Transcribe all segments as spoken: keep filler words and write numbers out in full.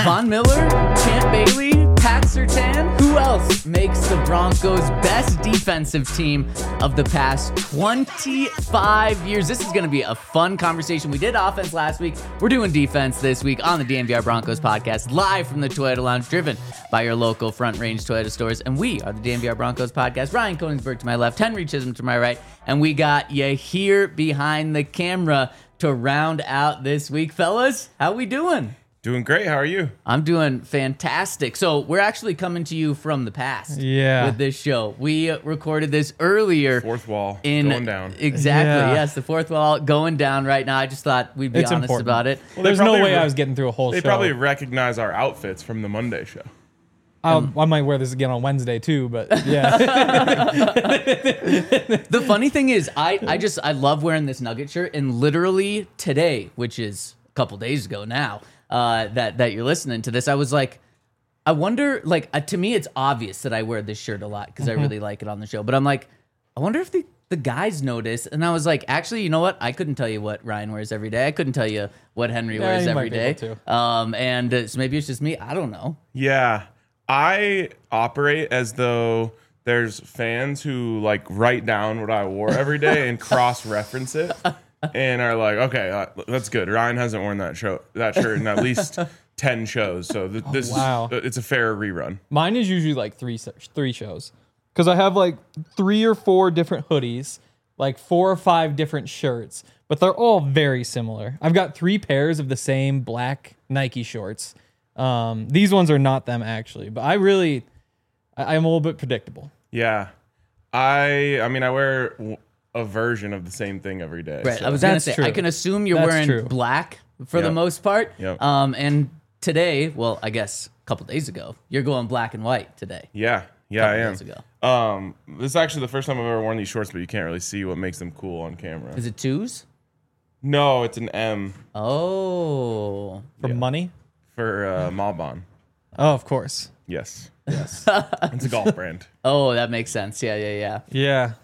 Von Miller, Champ Bailey, Pat Surtain. Who else makes the Broncos best defensive team of the past twenty-five years? This is going to be a fun conversation. We did offense last week. We're doing defense this week on the D N V R Broncos podcast, live from the Toyota Lounge, driven by your local Front Range Toyota stores. And we are the D N V R Broncos podcast. Ryan Koenigsberg to my left, Henry Chisholm to my right. And we got you here behind the camera to round out this week. Fellas, how we doing? Doing great. How are you? I'm doing fantastic. So we're actually coming to you from the past. Yeah. With this show, we recorded this earlier. Fourth wall in, going down. Exactly. Yeah. Yes, the fourth wall going down right now. I just thought we'd be It's honest important. about it. Well, There's they no probably way re- I was getting through a whole They show. probably recognize our outfits from the Monday show. I'll, I might wear this again on Wednesday too, but yeah. The funny thing is, I, I just I love wearing this Nugget shirt, and literally today, which is a couple days ago now, uh, that that you're listening to this, I was like, I wonder, like uh, to me, it's obvious that I wear this shirt a lot because Mm-hmm. I really like it on the show. But I'm like, I wonder if the the guys notice. And I was like, actually, you know what? I couldn't tell you what Ryan wears every day. I couldn't tell you what Henry Yeah, wears you every might be day. able to. Um, and uh, so maybe it's just me. I don't know. Yeah. I operate as though there's fans who like write down what I wore every day and cross-reference it and are like, okay, uh, that's good. Ryan hasn't worn that show that shirt in at least ten shows. So th- this wow. is it's a fair rerun. Mine is usually like three three shows because I have like three or four different hoodies, like four or five different shirts, but they're all very similar. I've got three pairs of the same black Nike shorts. Um, these ones are not them actually, but I really, I, I'm a little bit predictable. Yeah. I I mean I wear w- a version of the same thing every day. Right. so- I was going to That's say, true. I can assume you're That's wearing true. black for the Yep. most part. Yep. Um, and today, well, I guess a couple days ago, you're going black and white today. Yeah. Yeah, I Couple am. days ago. Um, this is actually the first time I've ever worn these shorts, but you can't really see what makes them cool on camera. Is it twos? No, it's an M Oh. For Yeah. money? for uh, Malbon. Oh, of course. Yes. Yes. It's a golf brand. Oh, that makes sense. Yeah, yeah, yeah. Yeah.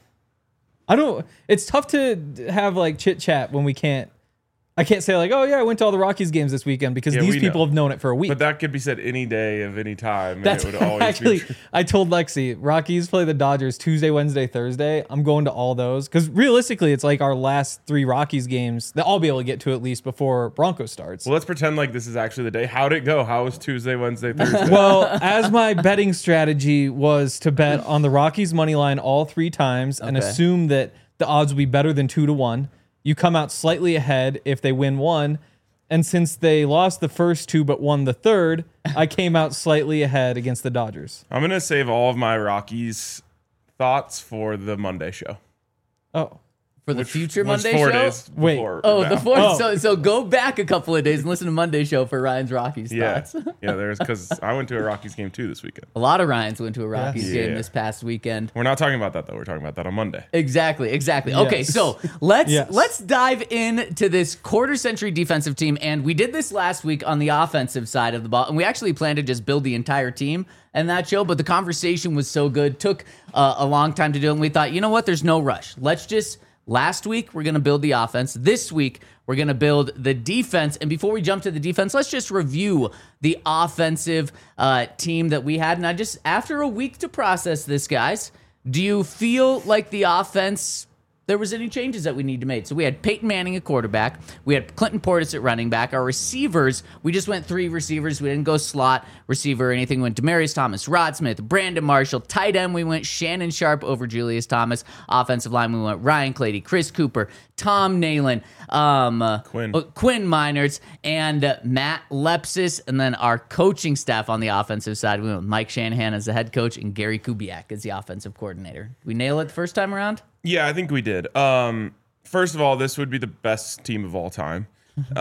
I don't, it's tough to have like chit chat when we can't, I can't say like, oh yeah, I went to all the Rockies games this weekend because Yeah, these we people know. have known it for a week. But that could be said any day of any time. And That's it would always actually, be true. I told Lexi, Rockies play the Dodgers Tuesday, Wednesday, Thursday. I'm going to all those because realistically, it's like our last three Rockies games that I'll be able to get to at least before Broncos starts. Well, let's pretend like this is actually the day. How'd it go? How was Tuesday, Wednesday, Thursday? Well, as my betting strategy was to bet on the Rockies money line all three times and Okay. assume that the odds will be better than two to one. You come out slightly ahead if they win one. And since they lost the first two but won the third, I came out slightly ahead against the Dodgers. I'm going to save all of my Rockies thoughts for the Monday show. Oh. For the Which future was Monday four show? days Wait. before Oh, now. the fourth. Oh. So, so go back a couple of days and listen to Monday show for Ryan's Rockies Yeah. thoughts. Yeah, there's because I went to a Rockies game too this weekend. A lot of Ryans went to a Rockies Yes. game Yeah. this past weekend. We're not talking about that though. We're talking about that on Monday. Exactly, exactly. Okay, Yes. so let's Yes. let's dive into this quarter century defensive team, and we did this last week on the offensive side of the ball, and we actually planned to just build the entire team and that show, but the conversation was so good, took uh, a long time to do it, and we thought, you know what? There's no rush. Let's just. Last week, we're going to build the offense. This week, we're going to build the defense. And before we jump to the defense, let's just review the offensive uh, team that we had. And I just, after a week to process this, guys, do you feel like the offense, there was any changes that we need to make? So we had Peyton Manning at quarterback. We had Clinton Portis at running back. Our receivers, we just went three receivers. We didn't go slot receiver or anything. We went Demaryius Thomas, Rod Smith, Brandon Marshall. Tight end, we went Shannon Sharp over Julius Thomas. Offensive line, we went Ryan Clady, Chris Cooper, Tom Nalen, um, uh, Quinn. uh, Quinn Meinerz, and uh, Matt Lepsis. And then our coaching staff on the offensive side, we went with Mike Shanahan as the head coach and Gary Kubiak as the offensive coordinator. Did we nail it the first time around? Yeah, I think we did. Um, first of all, this would be the best team of all time.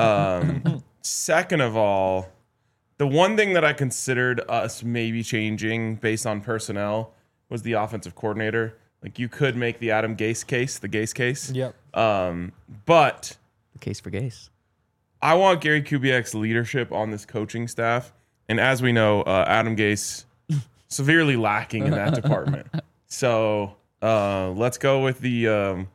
Um, second of all, the one thing that I considered us maybe changing based on personnel was the offensive coordinator. Like you could make the Adam Gase case, the Gase case. Yep. Um, but The case for Gase. I want Gary Kubiak's leadership on this coaching staff. And as we know, uh, Adam Gase severely lacking in that department. So uh, let's go with the um,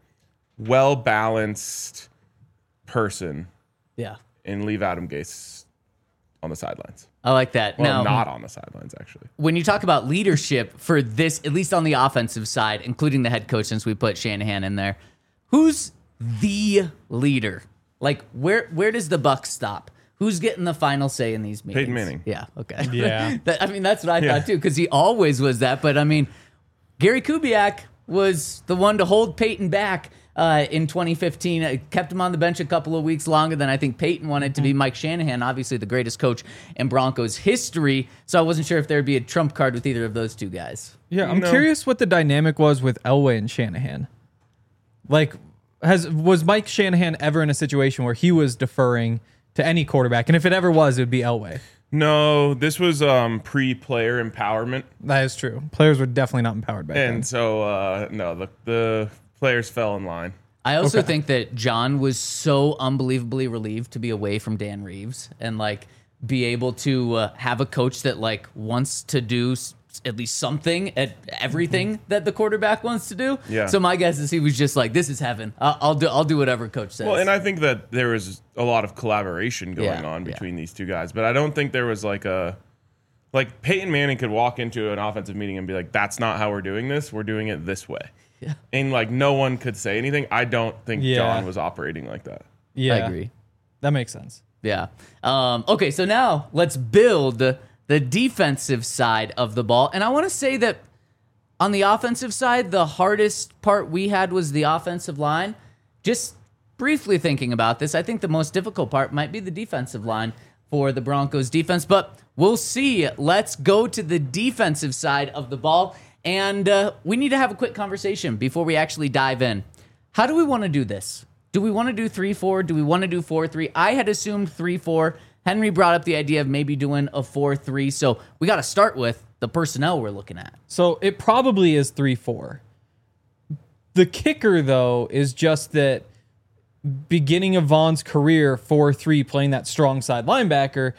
well-balanced person Yeah. and leave Adam Gase on the sidelines. I like that. Well, now, not on the sidelines, actually. when you talk about leadership for this, at least on the offensive side, including the head coach, since we put Shanahan in there, who's the leader? Like, where where does the buck stop? Who's getting the final say in these meetings? Peyton Manning. Yeah. Okay. Yeah. That- I mean, that's what I Yeah. thought too, because he always was that. But I mean, Gary Kubiak was the one to hold Peyton back uh, in twenty fifteen. It kept him on the bench a couple of weeks longer than I think Peyton wanted to be. Mike Shanahan, obviously the greatest coach in Broncos history. So I wasn't sure if there'd be a trump card with either of those two guys. Yeah, I'm No. curious what the dynamic was with Elway and Shanahan. Like, has was Mike Shanahan ever in a situation where he was deferring to any quarterback? And if it ever was, it would be Elway. No, this was um, pre-player empowerment. That is true. Players were definitely not empowered back And then. so, uh, no, the, the players fell in line. I also Okay. think that John was so unbelievably relieved to be away from Dan Reeves and like be able to uh, have a coach that like wants to do s- at least something at everything that the quarterback wants to do. Yeah. So my guess is he was just like, "This is heaven. I'll, I'll do. I'll do whatever coach says." Well, and I think that there was a lot of collaboration going Yeah, on yeah. between these two guys, but I don't think there was like a like Peyton Manning could walk into an offensive meeting and be like, "That's not how we're doing this. We're doing it this way," Yeah. and like no one could say anything. I don't think Yeah. John was operating like that. Yeah, I agree. That makes sense. Yeah. Um, okay, so now let's build the defensive side of the ball. And I want to say that on the offensive side, the hardest part we had was the offensive line. Just briefly thinking about this, I think the most difficult part might be the defensive line for the Broncos defense, but we'll see. Let's go to the defensive side of the ball. And uh, we need to have a quick conversation before we actually dive in. How do we want to do this? Do we want to do three four? Do we want to do four three? I had assumed three four. Henry brought up the idea of maybe doing a four three. So we got to start with the personnel we're looking at. So it probably is three four. The kicker, though, is just that beginning of Vaughn's career, four three, playing that strong side linebacker,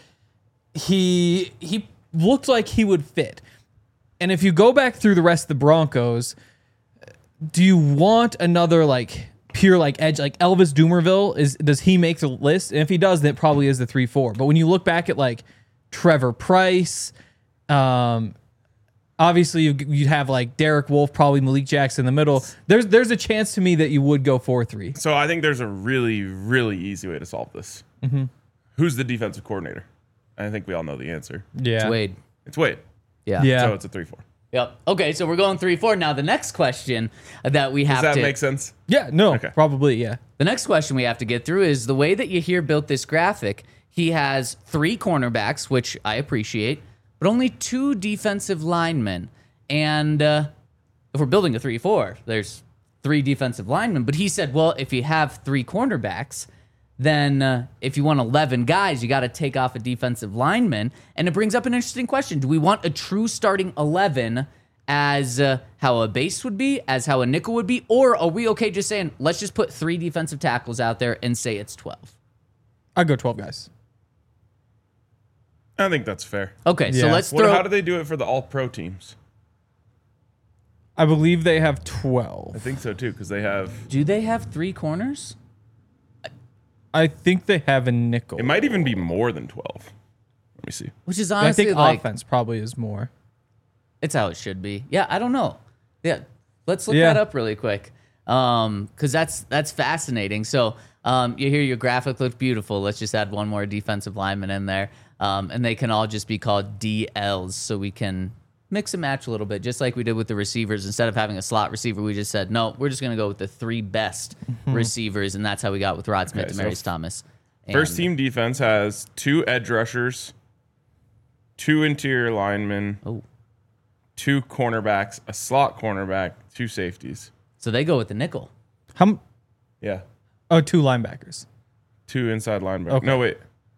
he he looked like he would fit. And if you go back through the rest of the Broncos, do you want another like pure like edge like Elvis Dumerville? Is does he make the list? And if he does, then it probably is the three four. But when you look back at like Trevor Price, um, obviously you you have like Derek Wolfe, probably Malik Jackson in the middle. There's there's a chance to me that you would go four three. So I think there's a really, really easy way to solve this. Mm-hmm. Who's the defensive coordinator? I think we all know the answer. Yeah. It's Wade. It's Wade. Yeah. Yeah. So it's a three four. Yep. Okay, so we're going three four. Now the next question that we have Does that to make sense? Yeah. No. Okay. Probably. Yeah. The next question we have to get through is the way that Yahir built this graphic. He has three cornerbacks, which I appreciate, but only two defensive linemen. And uh, if we're building a three four, there's three defensive linemen. But he said, well, if you have three cornerbacks, then uh, if you want eleven guys, you got to take off a defensive lineman. And it brings up an interesting question. Do we want a true starting eleven as uh, how a base would be, as how a nickel would be? Or are we okay just saying, let's just put three defensive tackles out there and say it's twelve? I'd go twelve guys. I think that's fair. Okay, so Yeah. let's What, throw... how do they do it for the all pro teams? I believe they have twelve. I think so too, because they have. Do they have three corners? I think they have a nickel. It might even be more than twelve. Let me see. Which is I honestly think like... offense probably is more. It's how it should be. Yeah, I don't know. Yeah, let's look Yeah. that up really quick, um, because that's that's fascinating. So um, you hear your graphic looked beautiful. Let's just add one more defensive lineman in there, um, and they can all just be called D Ls, so we can mix and match a little bit, just like we did with the receivers. Instead of having a slot receiver, we just said no. We're just gonna go with the three best receivers, and that's how we got with Rod Smith Okay, and so Marius Thomas. First And- team defense has two edge rushers, two interior linemen, Oh, two cornerbacks, a slot cornerback, two safeties. so they go with the nickel. How? m- Yeah. Oh, two linebackers. Two inside linebackers. Okay. No, wait.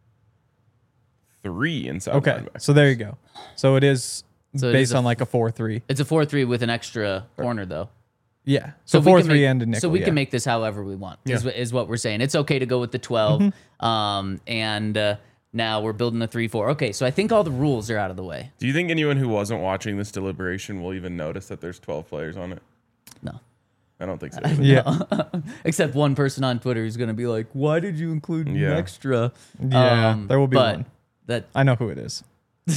Three inside Okay, linebackers. so there you go. So it is So it based is a on like a four three. It's a four three with an extra corner though. Yeah. So, we four can three make- and a nickel. So we yeah. can make this however we want. Is, Yeah. what- is what we're saying. It's okay to go with the twelve. Mm-hmm. Um, and uh, now we're building a three four. Okay, so I think all the rules are out of the way. Do you think anyone who wasn't watching this deliberation will even notice that there's twelve players on it? No, I don't think so. Yeah. except one person on Twitter who's going to be like, "Why did you include Yeah. an extra?" Yeah, Um, there will be but one. That I know who it is.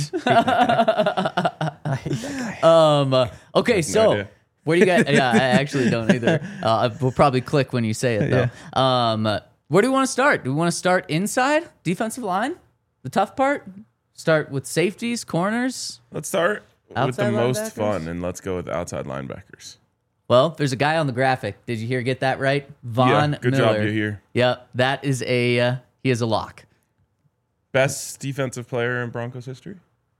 um. uh, okay, no so idea. where do you guys? Yeah, I actually don't either. Uh, we'll probably click when you say it though. Um. uh, Where do we want to start? Do we want to start inside defensive line, the tough part? Start with safeties, corners. Let's start with Outside the most linebackers? fun, and let's go with outside linebackers. Well, there's a guy on the graphic. Did you hear? Get that right, Von yeah, good Miller. job, you here. Yep, that is a uh, he is a lock. Best defensive player in Broncos history?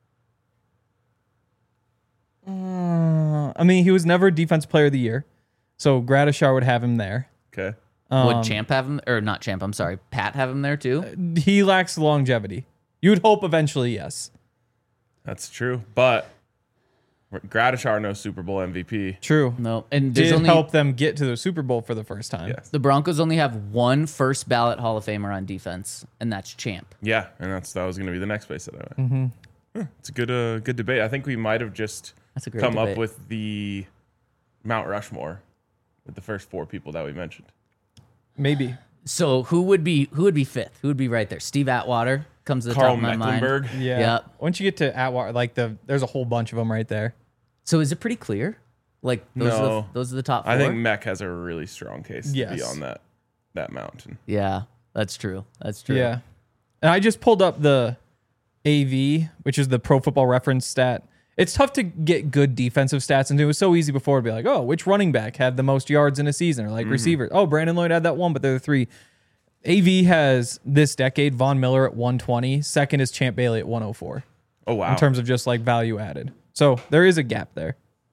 Uh, I mean, he was never Defensive Player of the Year, so Gradishar would have him there. Okay. Um, Would Champ have him, or not Champ? I'm sorry, Pat have him there too. He lacks longevity. You would hope eventually, yes. That's true. But Gradishar, no Super Bowl M V P. True. No, and there's Did only help them get to the Super Bowl for the first time. Yes. the Broncos only have one first ballot Hall of Famer on defense, and that's Champ. Yeah, and that's that was going to be the next place that I went. Mm-hmm. Huh, it's a good uh, good debate. I think we might have just That's a great come debate. up with the Mount Rushmore with the first four people that we mentioned. Maybe. So who would be who would be fifth? Who would be right there? Steve Atwater comes to the Carl top of my Mecklenburg. mind. Yeah. Yep. Once you get to Atwater, like the, there's a whole bunch of them right there. So is it pretty clear? Like those are the, No. those are the top four. I think Mech has a really strong case to be Yes. on that that mountain. Yeah, that's true. That's true. Yeah. And I just pulled up the A V, which is the Pro Football Reference stat. It's tough to get good defensive stats, and it was so easy before to be like, oh, which running back had the most yards in a season, or like Mm-hmm. receiver. Oh, Brandon Lloyd had that one, but they're the three. A V has this decade Von Miller at one twenty. Second is Champ Bailey at one oh four Oh wow. in terms of just like value added. So there is a gap there.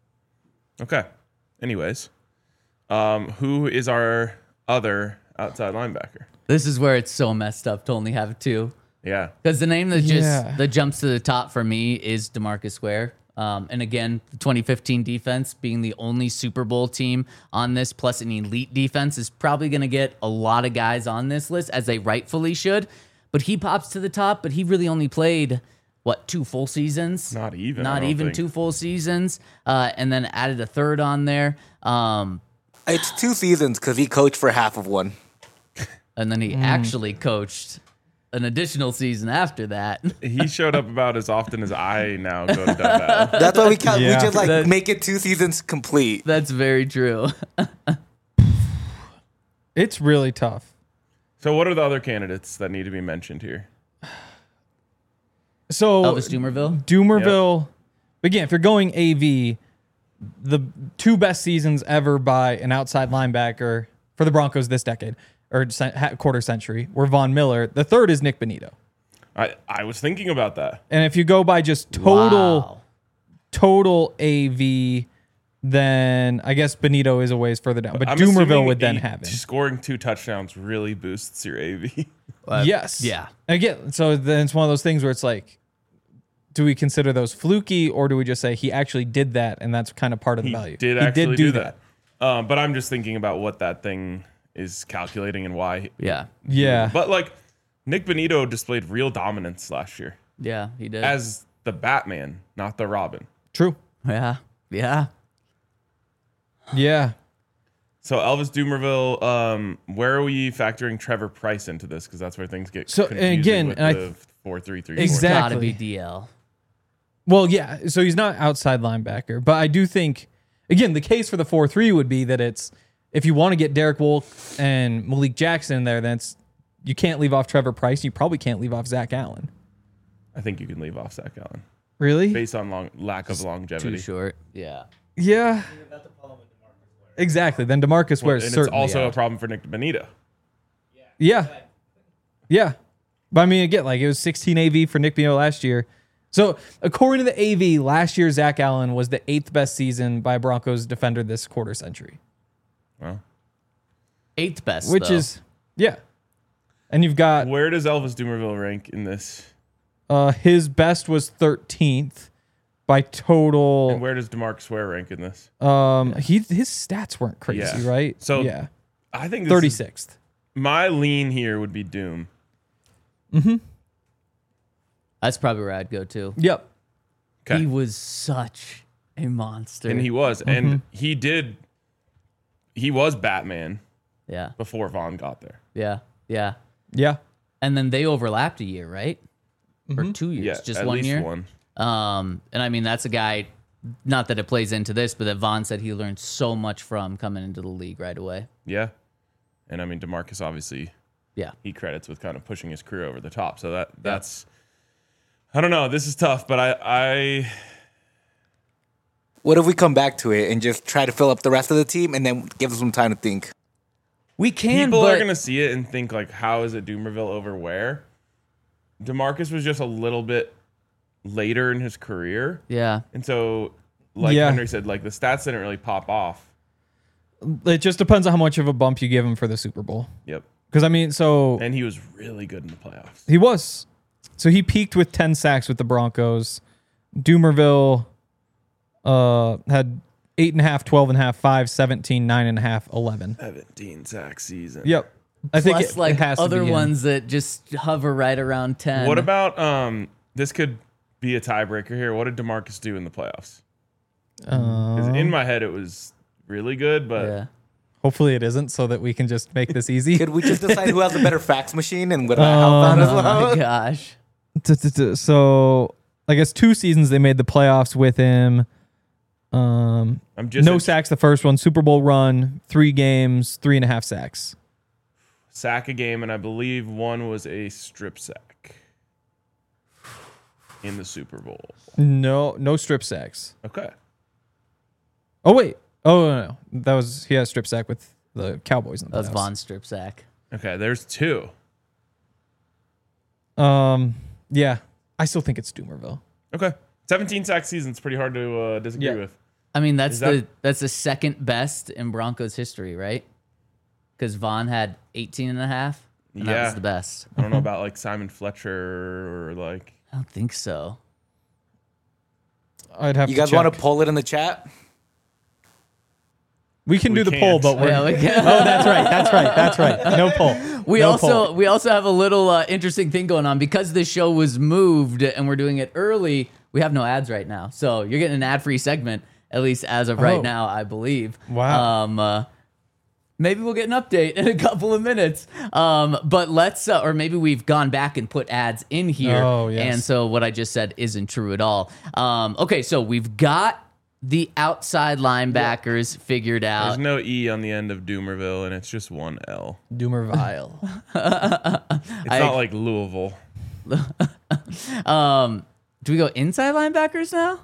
Okay. Anyways, um, who is our other outside linebacker? This is where it's so messed up to only have two. Yeah. Because the name that just Yeah. that jumps to the top for me is DeMarcus Ware. Um, and again, the twenty fifteen defense being the only Super Bowl team on this, plus an elite defense, is probably going to get a lot of guys on this list, as they rightfully should. But he pops to the top, but he really only played, what, two full seasons? Not even, I Not don't even think. two full seasons. Uh, and then added a third on there. Um, It's two seasons because he coached for half of one. and then he Mm. actually coached an additional season after that. He showed up about as often as I now go to Dub Battle. That's why we count. Yeah. We just like That- make it two seasons complete. That's very true. It's really tough. So what are the other candidates that need to be mentioned here? So Elvis Dumerville. Doomerville. Again, if you're going A V, the two best seasons ever by an outside linebacker for the Broncos this decade or cen- ha- quarter century were Von Miller. The third is Nick Bonito. I, I was thinking about that. And if you go by just total Wow. total A V, then I guess Bonito is a ways further down. But I'm Doomerville assuming would then eight- have him. Scoring two touchdowns really boosts your A V. Yes. yeah. Again, so then it's one of those things where it's like, do we consider those fluky, or do we just say he actually did that and that's kind of part of the He value? did actually do, that. Um, but I'm just thinking about what that thing is calculating and why. Yeah. Yeah. But like Nick Bonito displayed real dominance last year Yeah, he did. as the Batman, not the Robin. True. yeah. Yeah. Yeah. So Elvis Dumerville, um, where are we factoring Trevor Price into this? Because that's where things get So, confusing again, with and I the th- four three three. It's Exactly. got to be D L. Well, yeah. So he's not outside linebacker, but I do think, again, the case for the four three would be that it's, if you want to get Derek Wolfe and Malik Jackson in there, then it's, you can't leave off Trevor Price. You probably can't leave off Zach Allen. I think you can leave off Zach Allen Really? based on long, lack of Too longevity. short. Yeah. Yeah. Exactly. Then DeMarcus Ware And is it's certainly also out. a problem for Nick Bonito. Yeah. Yeah. But I mean, again, like it was sixteen A V for Nick Bonito last year. So according to the A V, last year Zach Allen was the eighth best season by a Broncos defender this quarter century, Well, Eighth best, which though. is, yeah. And you've got where does Elvis Dumerville rank in this? uh, his best was thirteenth by And total. where does DeMarcus Ware rank in this? Um, he his stats weren't crazy, Yeah. right? So yeah, I think this is- thirty-sixth. my lean here would be Doom. That's probably where I'd go to. Yep. Okay. He was such a monster. And he was. Mm-hmm. And he did. He was Batman yeah. before Vaughn got there. Yeah. Yeah. Yeah. And then they overlapped a year, right? or two years, Yeah, just at one least year. one. Um, and I mean, that's a guy, not that it plays into this, but that Vaughn said he learned so much from coming into the league right away. Yeah. And I mean, DeMarcus obviously, Yeah. he credits with kind of pushing his career over the top. So that that's, I don't know. This is tough, but I, I, What if we come back to it and just try to fill up the rest of the team and then give them some time to think? We can, people but are going to see it and think, like, how is it Doomerville over where? DeMarcus was just a little bit later in his career. yeah. And so, like Yeah. Henry said, like, the stats didn't really pop off. It just depends on how much of a bump you give him for the Super Bowl. Yep. Because I mean, so And he was really good in the playoffs. he was. So he peaked with ten sacks with the Broncos. Doomerville uh, had eight and a half, twelve and a half, five, seventeen, nine and a half, eleven. seventeen sack season. Yep. I think Plus, it, like it has other to be him. ones that just hover right around ten. What about, um, this could be a tiebreaker here. What did DeMarcus do in the playoffs? 'Cause in my head, it was really good, but Yeah. Hopefully it isn't, so that we can just make this easy. Could we just decide who has the better fax machine and would I help out as Oh well? my gosh. T- t- t- So I guess two seasons they made the playoffs with him. Um, I'm just no a sacks the first one. Super Bowl run, three games, three and a half sacks. sack a game, and I believe one was a strip sack in the Super Bowl. No, no strip sacks. Okay. Oh wait. Oh no, no. That was he had a strip sack with the Cowboys in the That was playoffs. Von strip sack. Okay, there's two. Um, yeah, I still think it's Doomerville. Okay. seventeen sack season's pretty hard to uh, disagree Yeah. with. I mean, that's Is that- the that's the second best in Broncos history, right? Because Vaughn had eighteen and a half, and that Yeah. was the best. I don't know about like Simon Fletcher or like I don't think so. I'd have You to guys check. want to poll it in the chat? We can We do the can't. poll, but we're. Yeah, we can. Oh, that's right. That's right. That's right. No poll. We No also poll. we also have a little uh, interesting thing going on because this show was moved and we're doing it early. We have no ads right now, so you're getting an ad-free segment at least as of right Oh. now, I believe. Wow. Um, uh, maybe we'll get an update in a couple of minutes. Um, but let's, uh, or maybe we've gone back and put ads in here, Oh, yes. and so what I just said isn't true at all. Um, okay, so we've got the outside linebackers figured out. there's no E on the end of Doomerville and it's just one L. Doomerville. It's I- not like Louisville. Um, do we go inside linebackers now?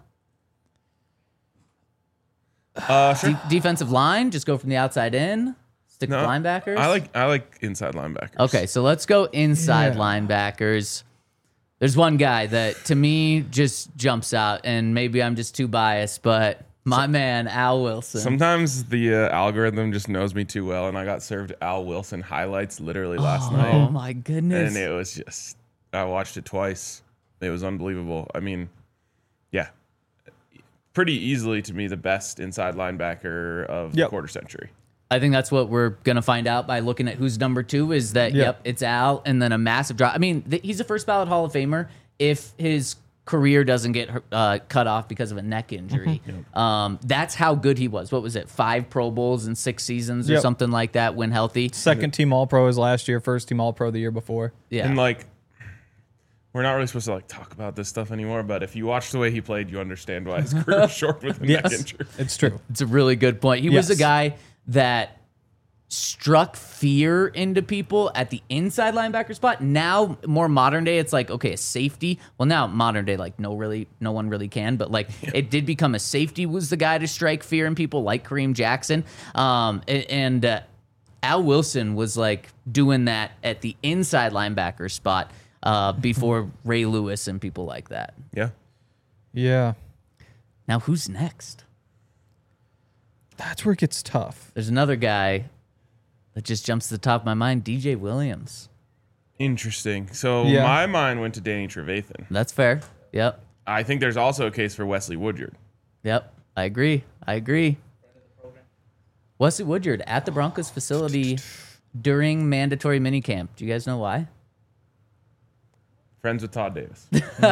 Uh, sure. De- defensive line, just go from the outside in. Stick No, with linebackers. I like I like inside linebackers. Okay, so let's go inside Yeah. linebackers. There's one guy that to me just jumps out, and maybe I'm just too biased, but my man Al Wilson. Sometimes the uh, algorithm just knows me too well, and I got served Al Wilson highlights literally last oh night, my goodness! and it was just I watched it twice. It was unbelievable. I mean, yeah, pretty easily to me the best inside linebacker of the Yep. quarter century. I think that's what we're gonna find out by looking at who's number two. Is that Yeah. yep, it's Al, and then a massive drop. I mean, th- he's a first ballot Hall of Famer if his career doesn't get uh, cut off because of a neck injury. Um, that's how good he was. What was it? Five Pro Bowls in six seasons or Yep. something like that when healthy. Second team All Pro is last year. First team All Pro the year before. Yeah. And like, we're not really supposed to like talk about this stuff anymore, but if you watch the way he played, you understand why his career was short with a neck Yes, injury. it's true. It's a really good point. He was a Yes. guy that struck fear into people at the inside linebacker spot. Now, more modern day, it's like, okay, a safety. Well, now modern day, like no really, no one really can, but like it did become a safety was the guy to strike fear in people like Kareem Jackson. Um, a- and uh, Al Wilson was like doing that at the inside linebacker spot uh, before Ray Lewis and people like that. Yeah. Yeah, Now, who's next? that's where it gets tough. There's another guy that just jumps to the top of my mind, D J Williams. Interesting. So Yeah. my mind went to Danny Trevathan. That's fair. Yep. I think there's also a case for Wesley Woodyard. Yep. I agree. I agree. Wesley Woodyard at the Broncos facility during mandatory minicamp. Do you guys know why? Friends with Todd Davis.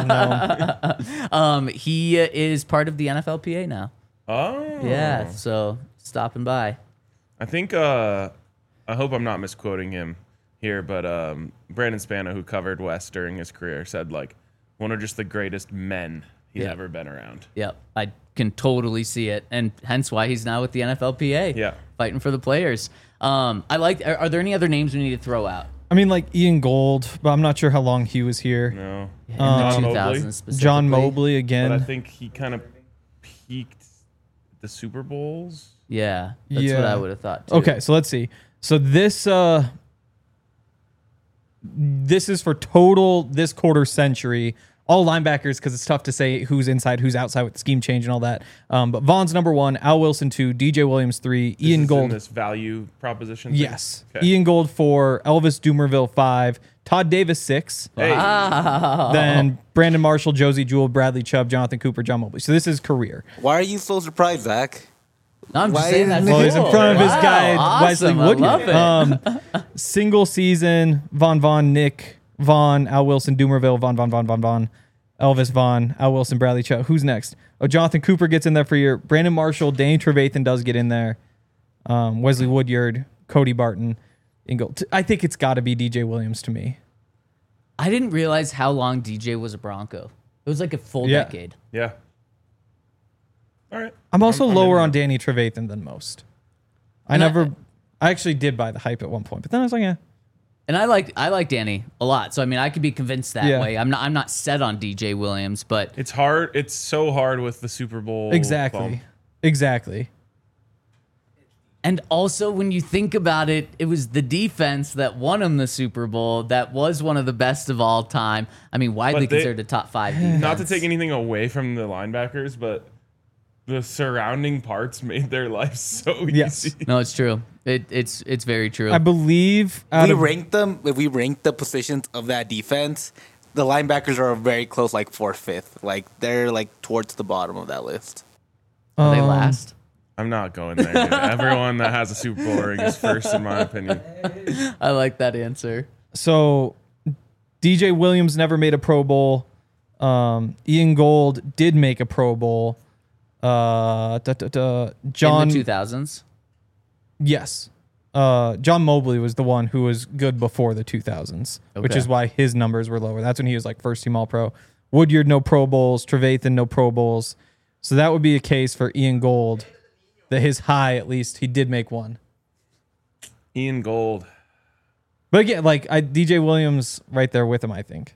Um, he uh, is part of the N F L P A now. Oh. Yeah. So stopping by. I think, uh, I hope I'm not misquoting him here, but um, Brandon Spano, who covered West during his career, said, like, one of just the greatest men he's Yeah. ever been around. Yep, I can totally see it, and hence why he's now with the N F L P A. Yeah. fighting for the players. Um, I like. Are, are there any other names we need to throw out? I mean, like Ian Gold, but I'm not sure how long he was here. No, In Um, the John two Mobley. thousands specifically. John Mobley but again. I think he kind of peaked at the Super Bowls. Yeah, that's what Yeah. I would have thought. Too. Okay, so let's see. So this uh this is for total this quarter century. All linebackers, because it's tough to say who's inside, who's outside with the scheme change and all that. Um, but Vaughn's number one, Al Wilson two, D J Williams three, This Ian is in Gold. this value proposition. thing? Yes. Okay. Ian Gold four, Elvis Dumerville five, Todd Davis six, Hey, then Brandon Marshall, Josie Jewell, Bradley Chubb, Jonathan Cooper, John Mobley. So this is career. Why are you so surprised, Zach? No, I'm just Why saying is- that's Well, he's in cool. front of his Wow, guy, awesome. Wesley I Woodyard. love it. Um, single season, Von Von, Nick Vaughn, Al Wilson, Dumerville, Von Von Von Von Von, Elvis Vaughn, Al Wilson, Bradley Chubb. Who's next? Oh, Jonathan Cooper gets in there for your Brandon Marshall, Danny Trevathan does get in there. Um, Wesley Woodyard, Cody Barton, Ingle. I think it's got to be D J Williams to me. I didn't realize how long D J was a Bronco. It was like a full Yeah. decade. yeah. All right. I'm also I'm- I'm lower in on there. Danny Trevathan than most. I And I- never, I actually did buy the hype at one point, but then I was like, yeah. And I like I like Danny a lot. So I mean I could be convinced that Yeah. way. I'm not I'm not set on D J Williams, but It's hard. It's so hard with the Super Bowl. Exactly. bump. Exactly. and also when you think about it, it was the defense that won him the Super Bowl that was one of the best of all time. I mean, widely But they- considered a top five defense. Not to take anything away from the linebackers, but the surrounding parts made their life so Yes. easy. No, it's true. It, it's it's very true. I believe out we of, ranked them. If we ranked the positions of that defense, the linebackers are very close, like fourth, fifth. Like they're like towards the bottom of that list. Are they um, last? I'm not going there. Dude. Everyone that has a Super Bowl ring is first, in my opinion. I like that answer. So D J Williams never made a Pro Bowl. Um, Ian Gold did make a Pro Bowl. Uh, da, da, da, John, In the two thousands. yes. Uh, John Mobley was the one who was good before the two thousands, which Okay. is why his numbers were lower. That's when he was like first team All Pro. Woodyard, no Pro Bowls. Trevathan, no Pro Bowls. So that would be a case for Ian Gold that his high, at least, he did make one. Ian Gold. But again, like I, D J Williams right there with him, I think.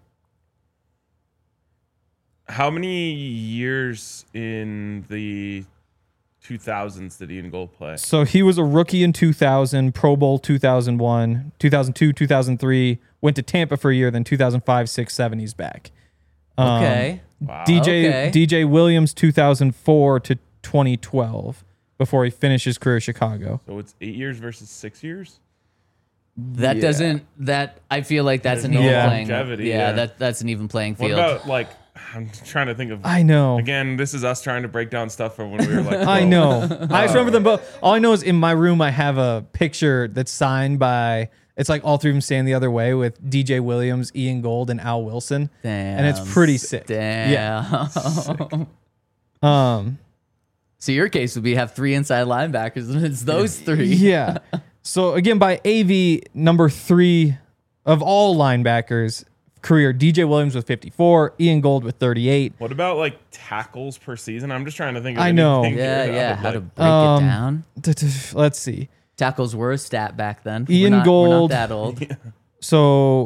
How many years in the two thousands did Ian Gold play? So he was a rookie in two thousand, Pro Bowl two thousand one, two thousand two, two thousand three, went to Tampa for a year, then two thousand five, six, seven, he's back. Um, Okay. Wow. D J Okay. D J Williams two thousand four to twenty twelve before he finished his career at Chicago. So it's eight years versus six years? That Yeah. doesn't that I feel like that's There's an no even Yeah. playing. longevity, yeah, yeah. that that's an even playing What field. about, like, I'm trying to think of. I know. Again, this is us trying to break down stuff from when we were like. I twelve. know. I just remember them both. All I know is in my room I have a picture that's signed by it's like all three of them standing the other way with D J Williams, Ian Gold, and Al Wilson. Damn. And it's pretty sick. Damn. Yeah. Um So your case would be have three inside linebackers, and it's those three. Yeah. So again, by A V, number three of all linebackers career, D J Williams with fifty-four, Ian Gold with thirty-eight. What about, like, tackles per season? I'm just trying to think of I know. anything Yeah, here that yeah. would, How to like- break Um, it down. Let's see. Tackles were a stat back then. Ian we're not, Gold. We're not that old. So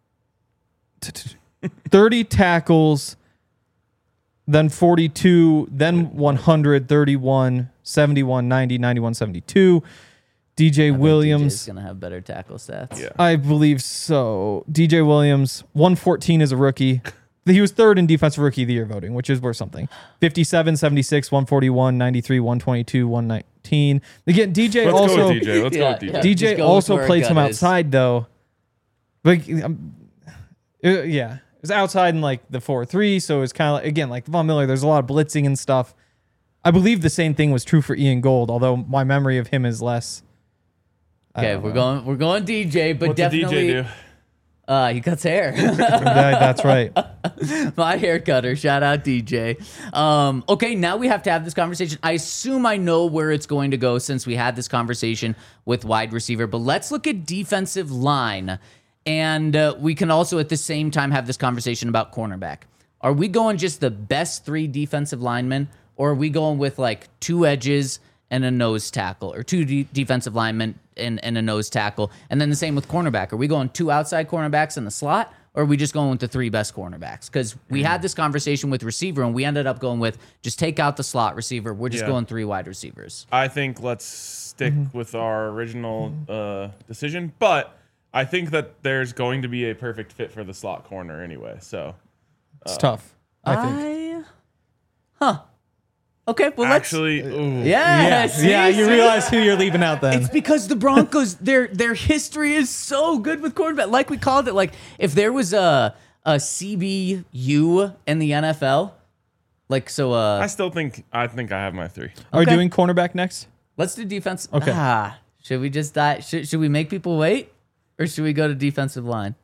thirty tackles, then forty-two, then one hundred, thirty-one, seventy-one, ninety, ninety-one, seventy-two. D J I think Williams. D J's gonna have better tackle stats. Yeah. I believe so. D J Williams, one fourteen as a rookie. He was third in defensive rookie of the year voting, which is worth something. fifty-seven, seventy-six, one forty-one, ninety-three, one twenty-two, one nineteen. Again, D J Let's also go with D J. Let's Yeah, go with D J. yeah. D Just J go with also where played gut some is. outside though. Like um, uh, yeah, it was outside in like the four three, so it was kind of like, again like Von Miller. There's a lot of blitzing and stuff. I believe the same thing was true for Ian Gold, although my memory of him is less. I Okay, don't we're know. going we're going D J, but What's the D definitely J do? uh he cuts hair. That- that's right. My hair cutter. Shout out D J. Um, okay, now we have to have this conversation. I assume I know where it's going to go since we had this conversation with wide receiver, but let's look at defensive line. And uh, we can also at the same time have this conversation about cornerback. Are we going just the best three defensive linemen, or are we going with like two edges and a nose tackle, or two de- defensive linemen and, and a nose tackle? And then the same with cornerback. Are we going two outside cornerbacks in the slot, or are we just going with the three best cornerbacks? Because we had this conversation with receiver, and we ended up going with just take out the slot receiver. We're just Yeah. going three wide receivers. I think let's stick with our original uh, decision, but I think that there's going to be a perfect fit for the slot corner anyway. So It's tough. I think. I, huh. Okay, well, let's. actually, ooh, Yeah, see, yeah, you see? realize who you're leaving out then. It's because the Broncos, their their history is so good with quarterback. Like we called it, like if there was a a C B U in the N F L, like so. Uh, I still think I think I have my three. Are we okay. doing cornerback next? let's do defense. Okay. Ah, should we just die? Should should we make people wait, or should we go to defensive line?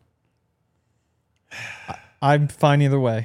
I'm fine either way.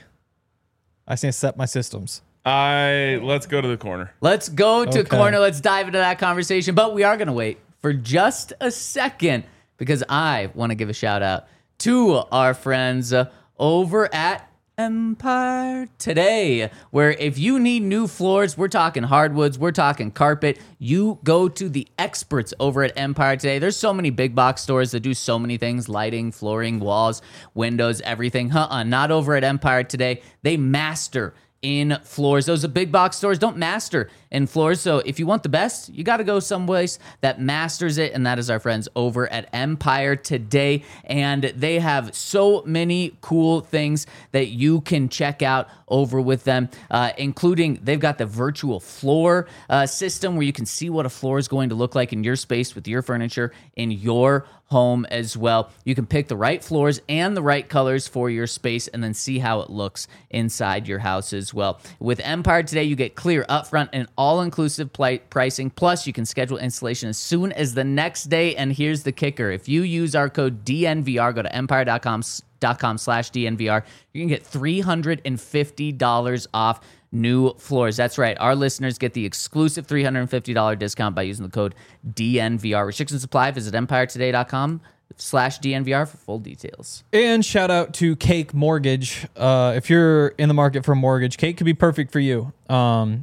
I just need to set my systems. I let's go to the corner. Let's go to Okay. corner. Let's dive into that conversation. But we are going to wait for just a second because I want to give a shout out to our friends uh, over at Empire Today, where if you need new floors, we're talking hardwoods, we're talking carpet, you go to the experts over at Empire Today. There's so many big box stores that do so many things: lighting, flooring, walls, windows, everything. Uh-uh, not over at Empire Today. They master in floors. Those are big box stores don't master in floors. So if you want the best, you got to go someplace that masters it. And that is our friends over at Empire Today. And they have so many cool things that you can check out over with them, uh, including they've got the virtual floor uh, system where you can see what a floor is going to look like in your space with your furniture in your home as well. You can pick the right floors and the right colors for your space and then see how it looks inside your house as well. With Empire Today, you get clear upfront and all-inclusive pli- pricing. Plus, you can schedule installation as soon as the next day. And here's the kicker. If you use our code D N V R, go to empire dot com dot com slash D N V R, you can get three hundred fifty dollars off new floors. That's right. Our listeners get the exclusive three hundred fifty dollars discount by using the code D N V R. Restrictions apply. Visit empire today dot com slash D N V R for full details. And shout out to Cake Mortgage. Uh, if you're in the market for a mortgage, Cake could be perfect for you. Um,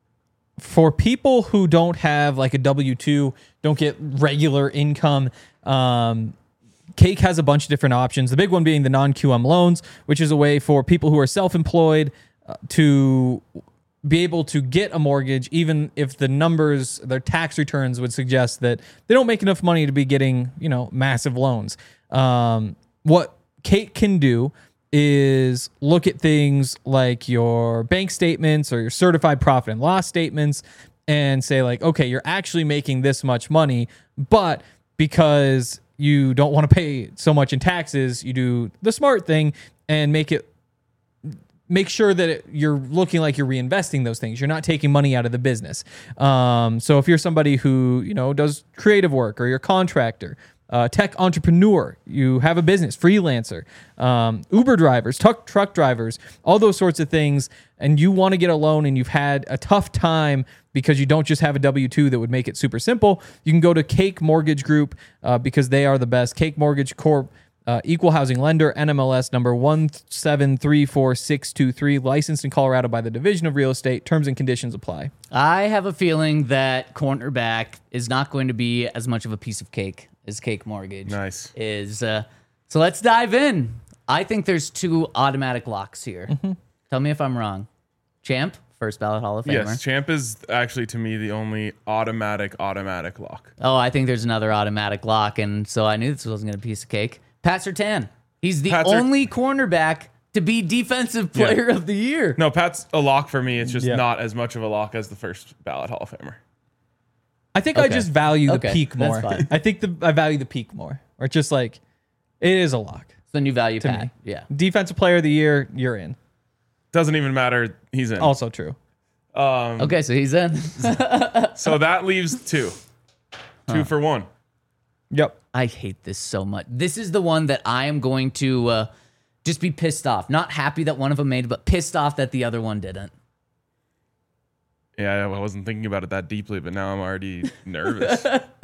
for people who don't have like a W two, don't get regular income, um, Cake has a bunch of different options. The big one being the non-Q M loans, which is a way for people who are self-employed uh, to be able to get a mortgage, even if the numbers, their tax returns would suggest that they don't make enough money to be getting, you know, massive loans. Um, what Cake can do is look at things like your bank statements or your certified profit and loss statements and say like, okay, you're actually making this much money, but because you don't want to pay so much in taxes, you do the smart thing and make it make sure that it, you're looking like you're reinvesting those things. You're not taking money out of the business. Um, so if you're somebody who, you know, does creative work, or you're a contractor, uh, tech entrepreneur, you have a business, freelancer, um, Uber drivers, truck, truck drivers, all those sorts of things, and you want to get a loan and you've had a tough time because you don't just have a W two that would make it super simple, you can go to Cake Mortgage Group uh, because they are the best. Cake Mortgage Corp, Uh, equal housing lender, N M L S number one seven three four six two three, licensed in Colorado by the Division of Real Estate. Terms and conditions apply. I have a feeling that cornerback is not going to be as much of a piece of cake as Cake Mortgage Nice. is. Uh, so let's dive in. I think there's two automatic locks here. Mm-hmm. Tell me if I'm wrong. Champ, first ballot Hall of Famer. Yes, Champ is actually to me the only automatic automatic lock. Oh, I think there's another automatic lock, and so I knew this wasn't going to be a piece of cake. Pat Surtain. He's the Pat Sur- only cornerback to be Defensive Player of the Year. No, Pat's a lock for me. It's just Yeah. not as much of a lock as the first ballot Hall of Famer. I think I Okay. just value the Okay, peak that's more. fine. I think the I value the peak more. Or just like, it is a lock. So then you value Pat. me. Yeah. Defensive Player of the Year, you're in. Doesn't even matter. He's in. Also true. Um, Okay, so he's in. So that leaves two. Two for one. Yep. I hate this so much. This is the one that I am going to uh, just be pissed off. Not happy that one of them made it, but pissed off that the other one didn't. Yeah, I wasn't thinking about it that deeply, but now I'm already nervous.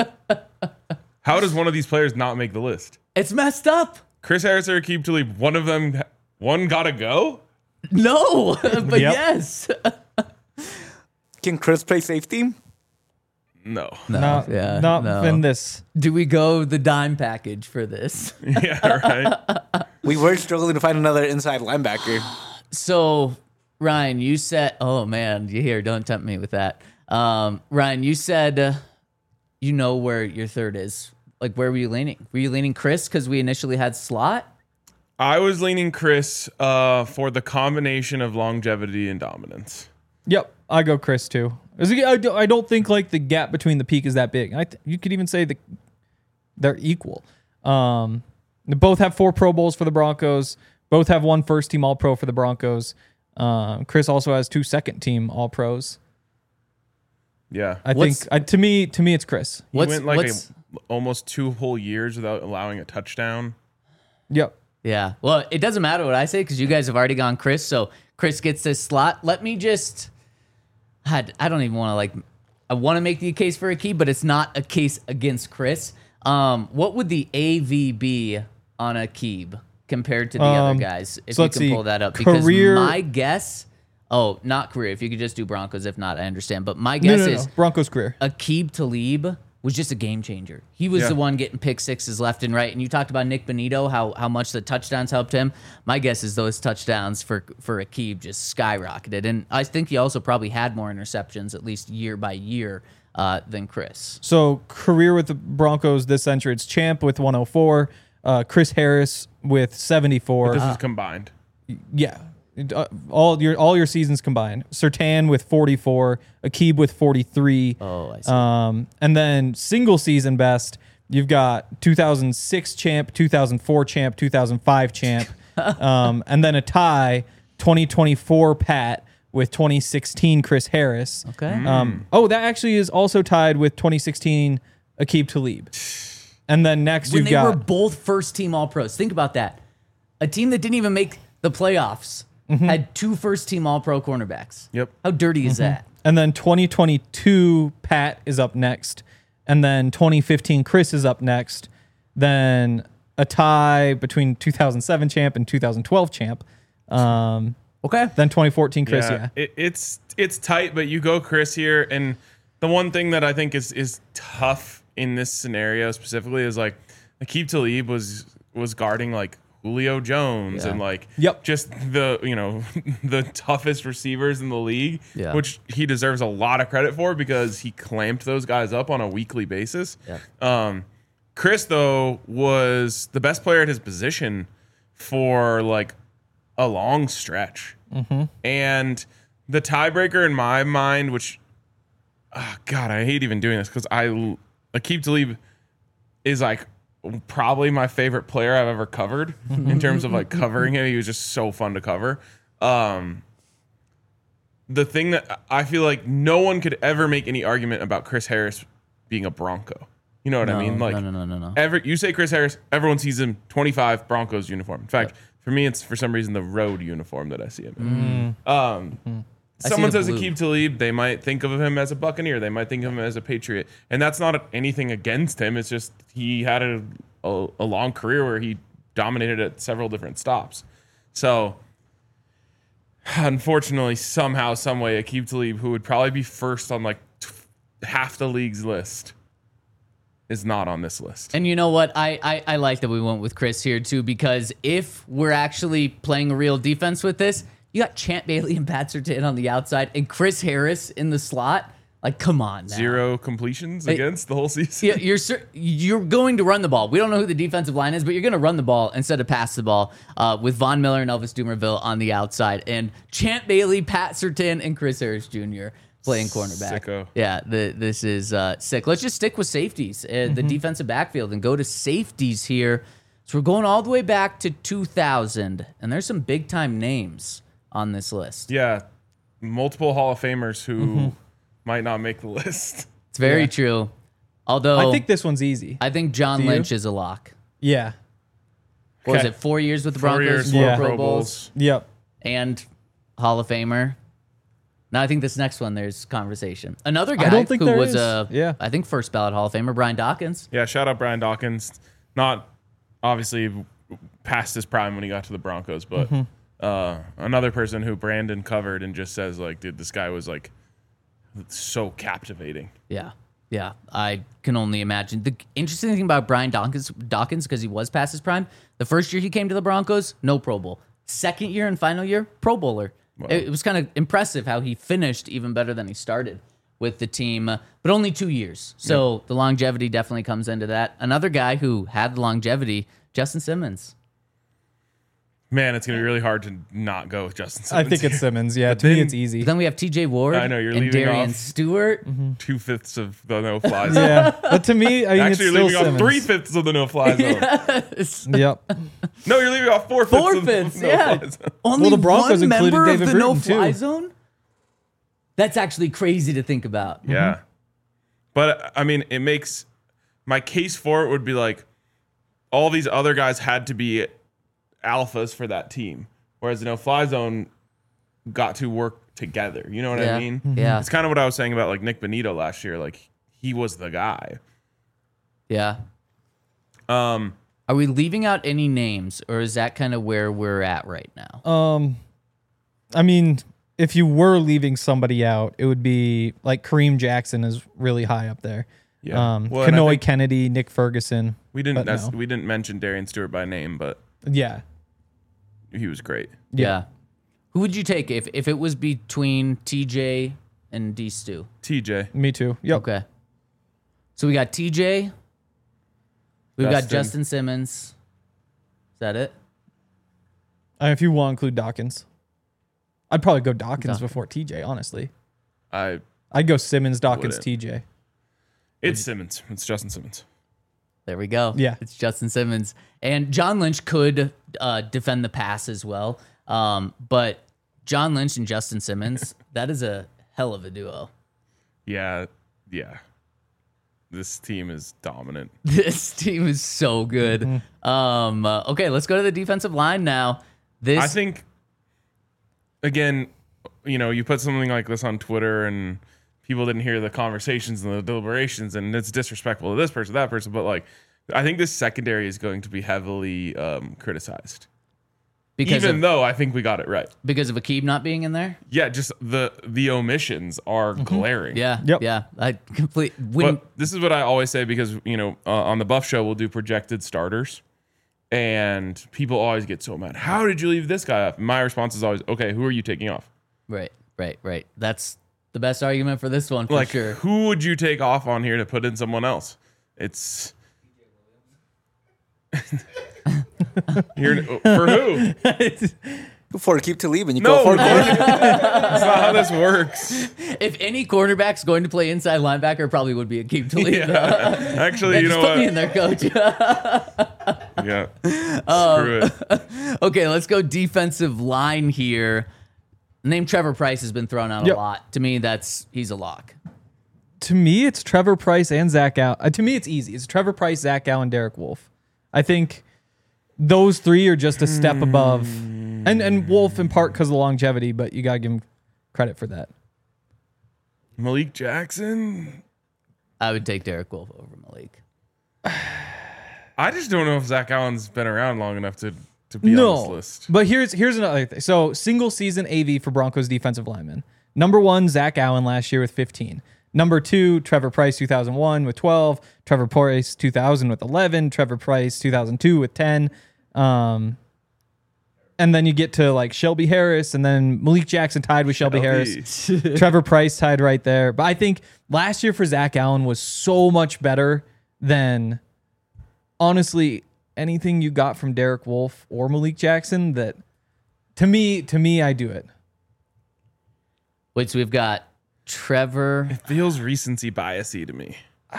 How does one of these players not make the list? It's messed up. Chris Harris or Aqib Talib, one of them, one gotta go? No, but Yep. yes. Can Chris play safety? No. No, not yeah, not no. in this. Do we go the dime package for this? Yeah, right. We were struggling to find another inside linebacker. So, Ryan, you said, oh man, you hear, don't tempt me with that. Um, Ryan, you said uh, you know where your third is. Like, where were you leaning? Were you leaning Chris because we initially had slot? I was leaning Chris uh, for the combination of longevity and dominance. Yep, I go Chris too. Is it- I do- I don't think like the gap between the peak is that big. I th- you could even say that they're equal. Um, they both have four Pro Bowls for the Broncos. Both have one first team All Pro for the Broncos. Um, Chris also has two second team All Pros. Yeah. I What's- think I, to me to me it's Chris. He What's- went like what's- a, almost two whole years without allowing a touchdown. Yep. Yeah. Well, it doesn't matter what I say because you guys have already gone Chris. So Chris gets this slot. Let me just. I I don't even want to like. I want to make the case for a key, but it's not a case against Chris. Um, what would the A V be on a Keeb compared to the Um, other guys? If so you let's can see. pull that up, because Career- my guess. Oh, not career. If you could just do Broncos, if not, I understand. But my No, guess no, no. is Broncos career. Aqib Talib was just a game changer. He was Yeah. the one getting pick sixes left and right. And you talked about Nick Benito, how how much the touchdowns helped him. My guess is those touchdowns for for Aqib just skyrocketed. And I think he also probably had more interceptions, at least year by year, uh, than Chris. So career with the Broncos this century, it's Champ with one oh four, uh, Chris Harris with seventy-four. This is combined. Yeah, Uh, all your all your seasons combined. Sertan with forty-four, Aqib with forty-three. Oh, I see. Um, and then single season best, you've got two thousand six champ, two thousand four champ, two thousand five champ, um, and then a tie, twenty twenty-four Pat with twenty sixteen Chris Harris. Okay. Um, oh, that actually is also tied with twenty sixteen Aqib Talib. And then next when you've they got were both first team All Pros. Think about that. A team that didn't even make the playoffs had two first team All Pro cornerbacks. Yep. How dirty is that? And then twenty twenty-two Pat is up next. And then twenty fifteen Chris is up next. Then a tie between two thousand seven champ and two thousand twelve champ. Um, Okay. then twenty fourteen Chris, yeah. It, it's it's tight, but you go Chris here, and the one thing that I think is is tough in this scenario specifically is like Aqib Talib was was guarding like Julio Jones Yeah. and like Yep. just the you know the toughest receivers in the league, Yeah. which he deserves a lot of credit for because he clamped those guys up on a weekly basis. Yeah. Um, Chris though was the best player at his position for like a long stretch. And the tiebreaker in my mind, which, oh God, I hate even doing this because I, Aqib Talib is like probably my favorite player I've ever covered in terms of like covering him. He was just so fun to cover. Um, the thing that I feel like no one could ever make any argument about Chris Harris being a Bronco. You know what I mean? Like, no, no, no, no, no. Every, you say Chris Harris, everyone sees him twenty-five Broncos uniform. In fact, for me, it's for some reason the road uniform that I see him in. Um, I see someone the says blue. Aqib Talib, they might think of him as a Buccaneer. They might think of him as a Patriot. And that's not anything against him. It's just he had a, a, a long career where he dominated at several different stops. So, unfortunately, somehow, some way, Aqib Talib, who would probably be first on like t- half the league's list, is not on this list. And you know what? I, I I like that we went with Chris here too, because if we're actually playing a real defense with this, you got Champ Bailey and Pat Surtain on the outside and Chris Harris in the slot. Like, come on now. Zero completions Hey, against the whole season. Yeah, you're cer- you're going to run the ball. We don't know who the defensive line is, but you're going to run the ball instead of pass the ball uh, with Von Miller and Elvis Dumerville on the outside, and Champ Bailey, Pat Surtain, and Chris Harris Junior playing cornerback. Sicko. Yeah, the, this is uh, sick. Let's just stick with safeties, uh, the defensive backfield, and go to safeties here. So we're going all the way back to two thousand, and there's some big time names on this list. Yeah, multiple Hall of Famers who might not make the list. It's very Yeah. true. Although I think this one's easy. I think John Do you? Lynch is a lock. Yeah. What was Okay. it? Four years with the Four Broncos, years, four Yeah. Pro Pro Bowls, Bowls. Yep. and Hall of Famer. Now I think this next one there's conversation. Another guy don't think who there was is. a Yeah. I think first ballot Hall of Famer, Brian Dawkins. Yeah, shout out Brian Dawkins. Not obviously past his prime when he got to the Broncos, but uh, another person who Brandon covered and just says like, dude, this guy was like so captivating. Yeah. Yeah. I can only imagine. The interesting thing about Brian Dawkins, Dawkins, because he was past his prime, the first year he came to the Broncos, no Pro Bowl. Second year and final year, Pro Bowler. Wow. It, it was kind of impressive how he finished even better than he started with the team, uh, but only two years. So Yep. the longevity definitely comes into that. Another guy who had longevity, Justin Simmons. Man, it's gonna be really hard to not go with Justin I Simmons. think it's Simmons. Yeah, But to me then- it's easy. But then we have T J Ward I know, you're and leaving Darian off- Stewart. two fifths of the no fly zone. Yeah, but to me, I mean, Actually, it's you're still leaving off Simmons. three fifths of the no fly zone. Yep. No, you're leaving off four fifths Four of the fifths, no yeah. fly zone. Only Well, the Broncos one included member David of the Bruton, no-fly too. zone. That's actually crazy to think about. Yeah. But I mean, it makes my case for it would be like all these other guys had to be alphas for that team, whereas the no fly zone got to work together. You know what Yeah. I mean? Yeah. It's kind of what I was saying about like Nick Benito last year. Like he was the guy. Yeah. Um, Are we leaving out any names, or is that kind of where we're at right now? Um, I mean, if you were leaving somebody out, it would be like Kareem Jackson is really high up there. Yeah. Um, Well, and I Kanoy think- Kennedy, Nick Ferguson. we didn't But nec- no. we didn't mention Darian Stewart by name, but Yeah. he was great. Yeah. Who would you take if, if it was between T J and D Stu? T J. Me too. Yep. Okay. So we got T J. We've got Justin. Justin Simmons. Is that it? Uh, if you want to include Dawkins, I'd probably go Dawkins Dawkins. before T J, honestly. I I'd go Simmons, Dawkins, Wouldn't. T J. it's Simmons. It's Justin Simmons. There we go. Yeah. It's Justin Simmons. And John Lynch could uh, defend the pass as well. Um, but John Lynch and Justin Simmons, that is a hell of a duo. Yeah, yeah. This team is dominant. This team is so good. Mm-hmm. Um, uh, okay, let's go to the defensive line now. This I think, again, you know, you put something like this on Twitter and people didn't hear the conversations and the deliberations, and it's disrespectful to this person, that person. But like, I think this secondary is going to be heavily um, criticized, because even of, though I think we got it right. because of Akeem not being in there. Yeah, just the the omissions are glaring. Yeah, Yep. yeah. I complete. When, But this is what I always say because, you know, uh, on the Buff Show, we'll do projected starters. And people always get so mad. How did you leave this guy off? My response is always, okay, who are you taking off? right, right, right. That's the best argument for this one for Like, sure. who would you take off on here to put in someone else? It's. You're, for who? For keep to leave and you No, go for no, that's not how this works. If any quarterback's going to play inside linebacker, it probably would be Akeem Talib. Yeah. Actually, Yeah, you just know put me what? in there, coach. Yeah. Um, Screw it. Okay, let's go defensive line here. The name Trevor Price has been thrown out Yep. a lot. To me, that's he's a lock. To me, it's Trevor Price and Zach Allen. Uh, to me, it's easy. It's Trevor Price, Zach Allen, Derek Wolf. I think those three are just a step above. And and Wolf in part because of the longevity, but you got to give him credit for that. Malik Jackson? I would take Derek Wolf over Malik. I just don't know if Zach Allen's been around long enough to, to be on this list. But here's here's another thing. So single season A V for Broncos defensive linemen. Number one, Zach Allen last year with fifteen. Number two, Trevor Price two thousand one with twelve. Trevor Price two thousand with eleven. Trevor Price two thousand two with ten. Um, and then you get to like Shelby Harris, and then Malik Jackson tied with Shelby, Harris. Trevor Price tied right there. But I think last year for Zach Allen was so much better than honestly anything you got from Derek Wolf or Malik Jackson. That to me, to me, I do it. Wait, so we've got Trevor. It feels recency biasy to me.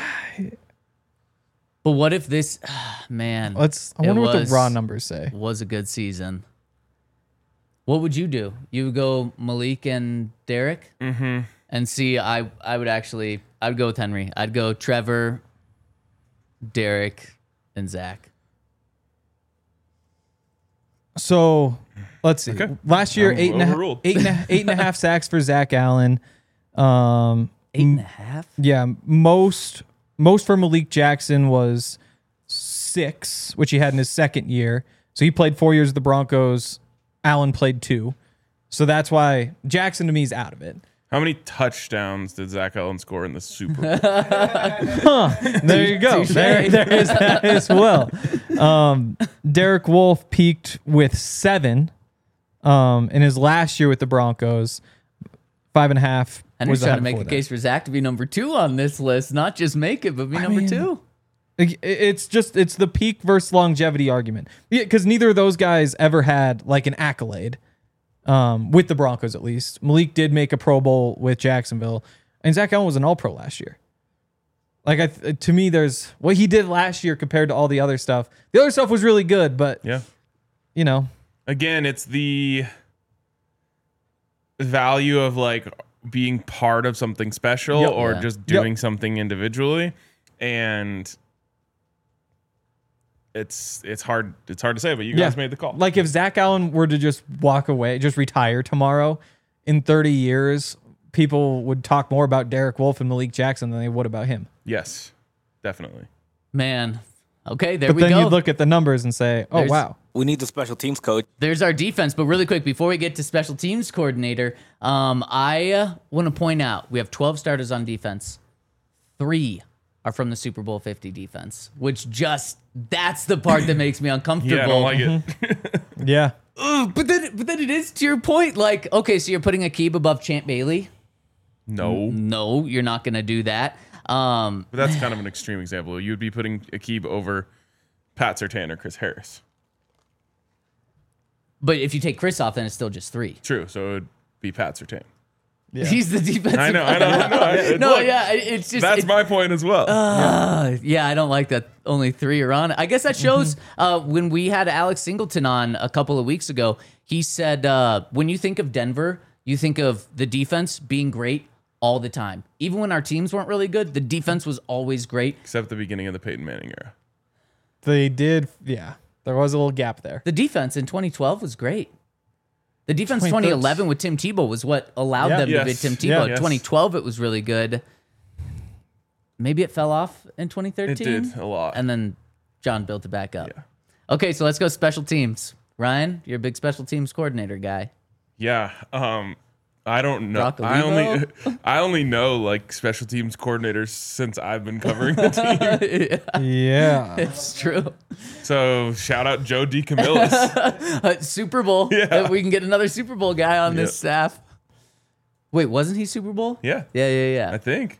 But what if this, man? Let's. I it wonder what was- the raw numbers say. Was a good season. What would you do? You would go Malik and Derek, Mm-hmm. and see. I I would actually. I would go with Henry. I'd go Trevor, Derek, and Zach. So let's see. Okay. Last year, I'm eight and, a, overruled. eight, and a, eight and a half sacks for Zach Allen. Um, Eight and a half. yeah, most most for Malik Jackson was six, which he had in his second year. So he played four years with the Broncos Allen played two. So that's why Jackson to me is out of it. How many touchdowns did Zach Allen score in the Super Bowl? There you go. There, there is that as well. Um, Derek Wolfe peaked with seven um, in his last year with the Broncos. Five and a half. Henry's was the trying high to make a before that. case for Zach to be number two on this list, not just make it, but be number mean, two. Like, it- It's just it's the peak versus longevity argument. Yeah, because neither of those guys ever had like an accolade. Um, with the Broncos, at least. Malik did make a Pro Bowl with Jacksonville, and Zach Allen was an All-Pro last year. Like, I th- to me, there's what he did last year compared to all the other stuff. The other stuff was really good, but Yeah. you know, Again, it's the value of like being part of something special Yep. or Yeah. just Yep. doing something individually, and it's it's hard it's hard to say. But you guys Yeah. made the call. like if Zach Allen were to just walk away, just retire tomorrow, in thirty years, people would talk more about Derek Wolfe and Malik Jackson than they would about him. Yes, definitely. Man. Okay, there But we then go. you look at the numbers and say, "Oh There's- wow." We need the special teams coach. There's our defense, but really quick, before we get to special teams coordinator, um, I uh, want to point out we have twelve starters on defense. Three are from the Super Bowl fifty defense, which just, that's the part that makes me uncomfortable. Yeah, I don't like it. Yeah. Ugh, but then, but then it is to your point. Like, okay, so you're putting Aqib above Champ Bailey. No, No, you're not going to do that. Um, but that's kind of an extreme example. You'd be putting Aqib over Pat Surtain or Chris Harris. but if you take Chris off, then it's still just three. True, so it would be Pat Surtain. Yeah. He's the defensive. I know, I know, I know. I- No, look, yeah, it- it's just That's it- my point as well. Uh, yeah, I don't like that only three are on. I guess that shows Mm-hmm. uh, when we had Alex Singleton on a couple of weeks ago, he said uh, when you think of Denver, you think of the defense being great all the time. Even when our teams weren't really good, the defense was always great. Except the beginning of the Peyton Manning era. They did, yeah. There was a little gap there. The defense in twenty twelve was great. The defense twenty twenty thirteen eleven with Tim Tebow was what allowed Yeah. them to beat Yes. Tim Yeah. Tebow. Yes. twenty twelve, it was really good. Maybe it fell off in twenty thirteen. It did a lot. And then John built it back up. Yeah. Okay, so let's go special teams. Ryan, you're a big special teams coordinator guy. Yeah. Um, I don't know. Brock I only Olivo? I only know like special teams coordinators since I've been covering the team. Yeah. It's true. So shout out Joe DeCamillis. Uh, Super Bowl. Yeah. Uh, We can get another Super Bowl guy on this Yep. staff. Wait, wasn't he Super Bowl? Yeah. Yeah, yeah, yeah. I think.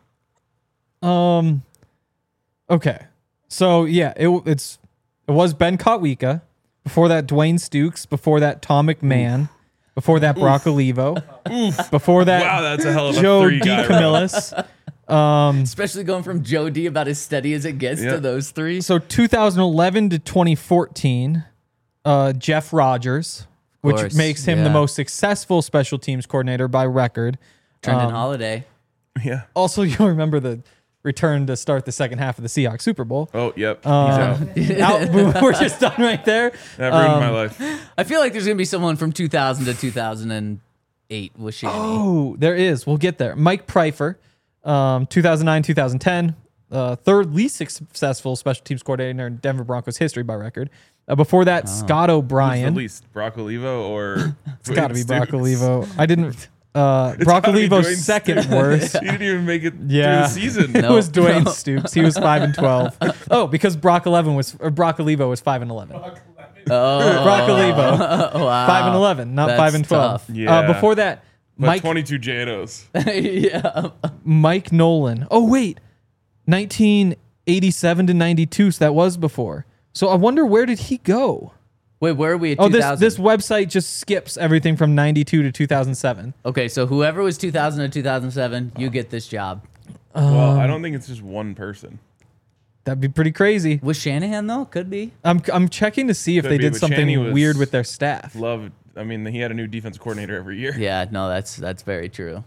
Um. Okay. So yeah, it it's it was Ben Kotwika. Before that, Dwayne Stukes. Before that, Tom McMahon. Before that, Brock Olivo. Before that, Wow, that's a hell of a Joe three guy row. DeCamillis. Especially going from Joe D about as steady as it gets Yeah. to those three. So two thousand eleven to twenty fourteen, uh, Jeff Rogers, which course, makes him the yeah. most successful special teams coordinator by record. Trendon um, Holiday. Yeah. Also, you'll remember the return to start the second half of the Seahawks Super Bowl. Oh, yep. Um, He's out. Out- we're just done right there. That ruined um, my life. I feel like there's going to be someone from two thousand to two thousand eight with Shanny. Oh, there is. We'll get there. Mike Pryfer, um, two thousand nine, two thousand ten, uh, third least successful special teams coordinator in Denver Broncos history by record. Uh, before that, Scott Who's O'Brien. the least, Brock Olivo or It's got to be Dwayne Brock Stukes? Olivo. I didn't. Uh, It's Brock gotta be Olivo's Dwayne second Stukes. worst. He didn't even make it Yeah. through the season. It No. was Dwayne Stoops. He was five and twelve. Oh, because Brock eleven was or Brock Olivo was five and eleven. Oh, Brock Olivo, wow. five and eleven, not That's five and twelve. tough. Yeah. Uh, before that, But Mike twenty-two J N Os. yeah. Mike Nolan. Oh wait, nineteen eighty-seven to ninety-two. So that was before. So I wonder where did he go? Wait, where are we at Oh, two this thousand? this website just skips everything from ninety-two to two thousand seven. Okay, so whoever was two thousand to two thousand seven, you get this job. Well, Um, I don't think it's just one person. That'd be pretty crazy. Was Shanahan, though? Could be. I'm I'm checking to see if Could they be, did but something Shanny was- weird with their staff. Love. I mean, he had a new defensive coordinator every year. Yeah, no, that's that's very true.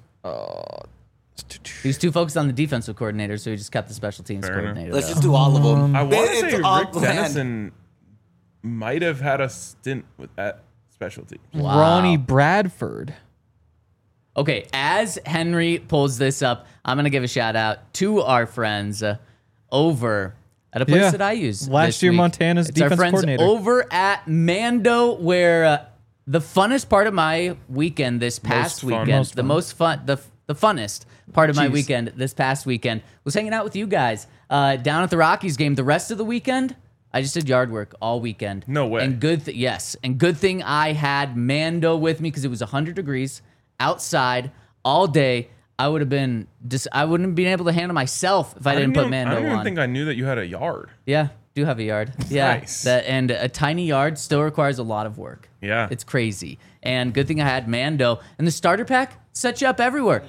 He was too focused on the defensive coordinator, so he just kept the special teams Fair enough. coordinator. Let's though. just do all of them. I want to It's say all Rick planned. Dennison might have had a stint with that special team. Wow. Ronnie Bradford. Okay, as Henry pulls this up, I'm going to give a shout out to our friends uh, over at a place Yeah. that I use. Last this year, week. Montana's it's our defense friends coordinator. over at Mando, where uh, the funnest part of my weekend this past fun. weekend, Most the fun. most fun, the the funnest part of my Jeez. weekend this past weekend was hanging out with you guys uh, down at the Rockies game. The rest of the weekend, I just did yard work all weekend. No way. And good, th- yes, and good thing I had Mando with me because it was one hundred degrees outside all day. I would have been just, I wouldn't have been able to handle myself if I, didn't put even, Mando I don't even on. think I knew that you had a yard. Yeah, do have a yard. Yeah, Nice. that and a tiny yard still requires a lot of work. Yeah. It's crazy. And good thing I had Mando. And the starter pack set you up everywhere.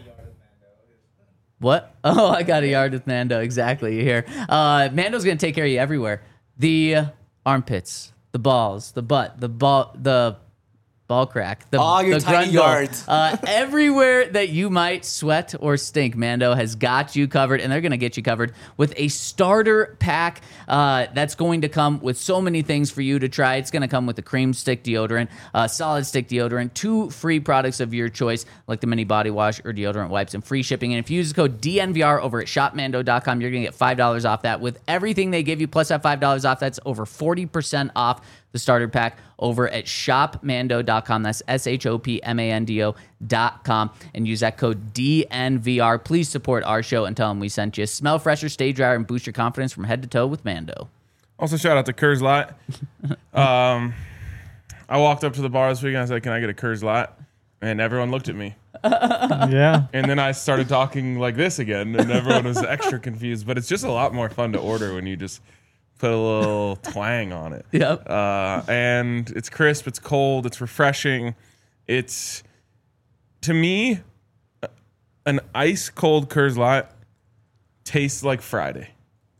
What? Oh, I got a yard with Mando. Exactly. You hear? Uh, Mando's gonna take care of you everywhere. The uh, armpits, the balls, the butt, the ball, the ball crack, the, All your the tiny grundle. yards. Uh, everywhere that you might sweat or stink, Mando has got you covered, and they're going to get you covered with a starter pack uh, that's going to come with so many things for you to try. It's going to come with a cream stick deodorant, uh, solid stick deodorant, two free products of your choice, like the mini body wash or deodorant wipes, and free shipping. And if you use the code D N V R over at shop mando dot com, you're going to get five dollars off that. With everything they give you, plus that five dollars off, that's over forty percent off the starter pack over at shop mando dot com. That's S H O P M A N D O dot com. And use that code D N V R. Please support our show and tell them we sent you. Smell fresher, stay drier, and boost your confidence from head to toe with Mando. Also, shout out to Coors Light. um, I walked up to the bar this weekend. I said, "Can I get a Coors Light?" And everyone looked at me. Yeah. And then I started talking like this again, and everyone was extra confused. But it's just a lot more fun to order when you just put a little twang on it. Yep. Uh, and it's crisp, it's cold, it's refreshing. It's, to me, an ice cold Coors Light tastes like Friday.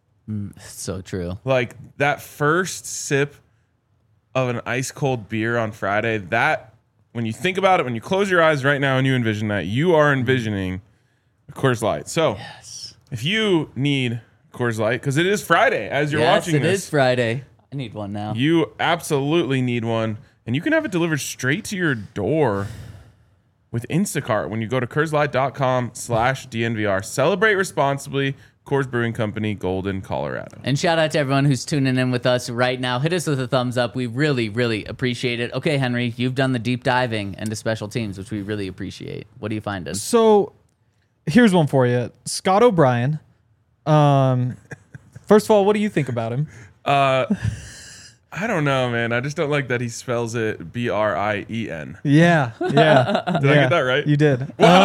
So true. Like that first sip of an ice cold beer on Friday, that, when you think about it, when you close your eyes right now and you envision that, you are envisioning a Coors Light. So if you need Coors Light, because it is Friday as you're Yes, watching it this, is Friday. I need one now. you absolutely need one, and you can have it delivered straight to your door with Instacart when you go to Coors Light dot com slash D N V R. Celebrate responsibly. Coors Brewing Company, Golden, Colorado. And shout out to everyone who's tuning in with us right now. Hit us with a thumbs up. We really, really appreciate it. Okay, Henry, you've done the deep diving into special teams, which we really appreciate. What are you finding? So here's one for you. Scott O'Brien. Um, first of all, what do you think about him? Uh, I don't know, man. I just don't like that he spells it B R I E N. Yeah. Yeah. Did I get that right? You did.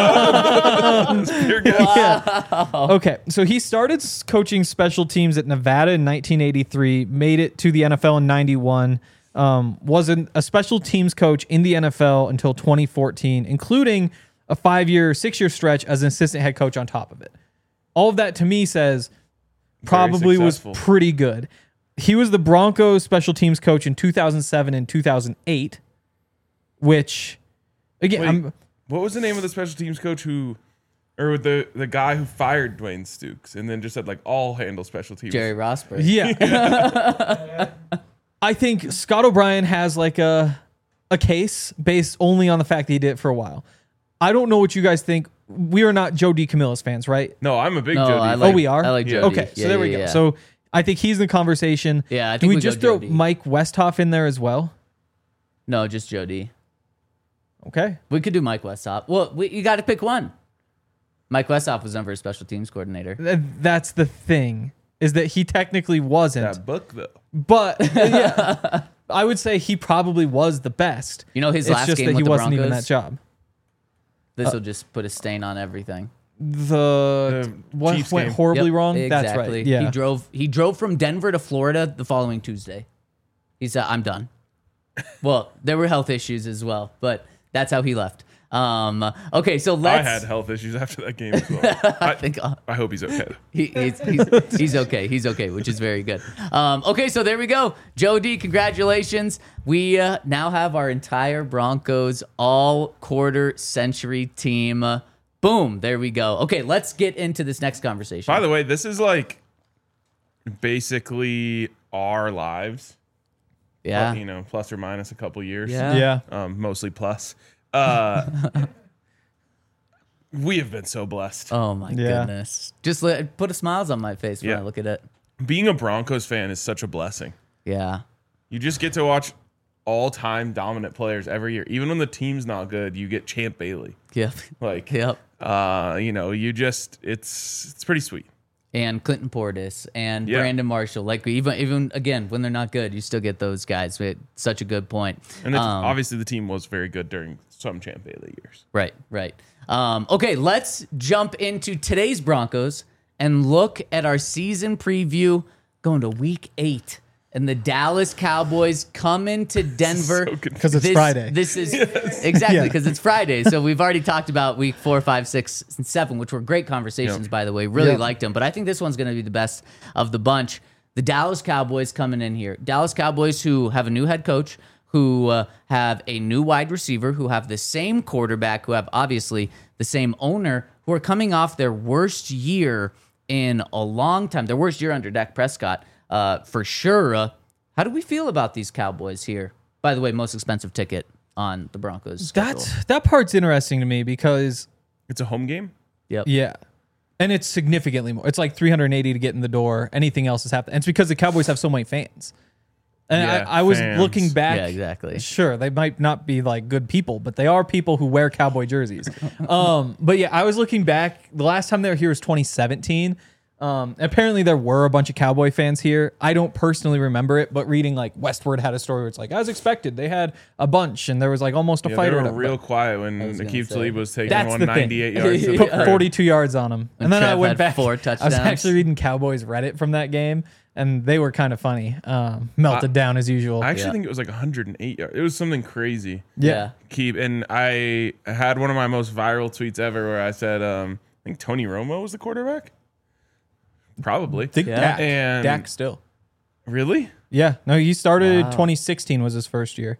Pure guess. Okay, so he started s- coaching special teams at Nevada in nineteen eighty-three, made it to the N F L in ninety-one, um, was an, a special teams coach in the N F L until twenty fourteen, including a five-year, six-year stretch as an assistant head coach on top of it. All of that to me says probably was successful. pretty good. He was the Broncos special teams coach in two thousand seven and two thousand eight, which, again, Wait, I'm... what was the name of the special teams coach who, or the the guy who fired Dwayne Stukes and then just said like, "I'll handle special teams"? Jerry Rosberg. Yeah. I think Scott O'Brien has like a a case based only on the fact that he did it for a while. I don't know what you guys think. We are not Joe DiCamillo's fans, right? No, I'm a big No, Jody. I fan. like- oh, we are? I like Yeah. Jody. Okay, so Yeah, there we yeah, go. yeah. So I think he's in the conversation. Yeah, I Do think we we go just throw Jody. Mike Westhoff in there as well? No, just Jody. Okay. We could do Mike Westhoff. Well, we, you got to pick one. Mike Westhoff was never a special teams coordinator. Th- That's the thing, is that he technically wasn't. That book though. But yeah, I would say he probably was the best. You know his It's last just game that he with the wasn't even Broncos? that job. This will just put a stain on everything. The, The what Chiefs went game. horribly Yep, wrong? Exactly. That's right. Yeah. He drove he drove from Denver to Florida the following Tuesday. He said, "I'm done." Well, there were health issues as well, but that's how he left. Um, okay, so I let's had health issues after that game as well. I I, think uh, I hope he's okay. he, he's, he's, he's okay. He's okay, which is very good. Um, okay, so there we go. Joe D, congratulations. We uh, now have our entire Broncos all quarter century team. Uh, boom, there we go. Okay, let's get into this next conversation. By the way, this is like basically our lives. yeah. You know, plus or minus a couple years. Yeah. Yeah. Um, mostly plus. Uh, we have been so blessed. Oh my Yeah. goodness. Just let, put a smiles on my face when Yeah. I look at it. Being a Broncos fan is such a blessing. Yeah. You just get to watch all-time dominant players every year. Even when the team's not good, you get Champ Bailey. Yep. Like, Yep. uh, you know, you just it's it's pretty sweet. And Clinton Portis and Yeah. Brandon Marshall. Like even even again when they're not good, you still get those guys. But such a good point. And it's, Um, obviously the team was very good during some Champ Bailey years. Right, right. Um, okay, let's jump into today's Broncos and look at our season preview going to week eight. And the Dallas Cowboys come into Denver. So Because it's This- Friday. This is exactly Yeah. because it's Friday. So we've already talked about week four, five, six, and seven, which were great conversations, Yep. by the way. Really Yep. liked them. But I think this one's going to be the best of the bunch. The Dallas Cowboys coming in here. Dallas Cowboys who have a new head coach, who uh, have a new wide receiver, who have the same quarterback, who have obviously the same owner, who are coming off their worst year in a long time. Their worst year under Dak Prescott, uh, for sure. Uh, how do we feel about these Cowboys here? By the way, most expensive ticket on the Broncos schedule. That's that part's interesting to me because It's a home game. Yep. yeah, and it's significantly more. It's like three hundred eighty to get in the door. Anything else is happening. And it's because the Cowboys have so many fans. And Yeah, I, I was fans. looking back. Yeah, exactly. Sure, they might not be like good people, but they are people who wear Cowboy jerseys. um, but yeah, I was looking back. The last time they were here was twenty seventeen. Um, apparently there were a bunch of Cowboy fans here. I don't personally remember it, but reading like Westward had a story where it's like, as expected, they had a bunch and there was like almost a Yeah, fight they or were whatever. real quiet when was gonna Aqib say. Talib was taking That's one the thing. ninety-eight yards. to the Put crib. forty-two yards on them. And then I Trev went had back. four I was touchdowns. actually reading Cowboys Reddit from that game, and they were kind of funny. Um, melted down as usual. I actually Yeah. think it was like one hundred eight yards. It was something crazy. yeah. Keep and I had one of my most viral tweets ever where I said, um, I think Tony Romo was the quarterback. Probably. Think Yeah. Dak. And- Dak still. Really? Yeah. No, he started Wow. twenty sixteen was his first year.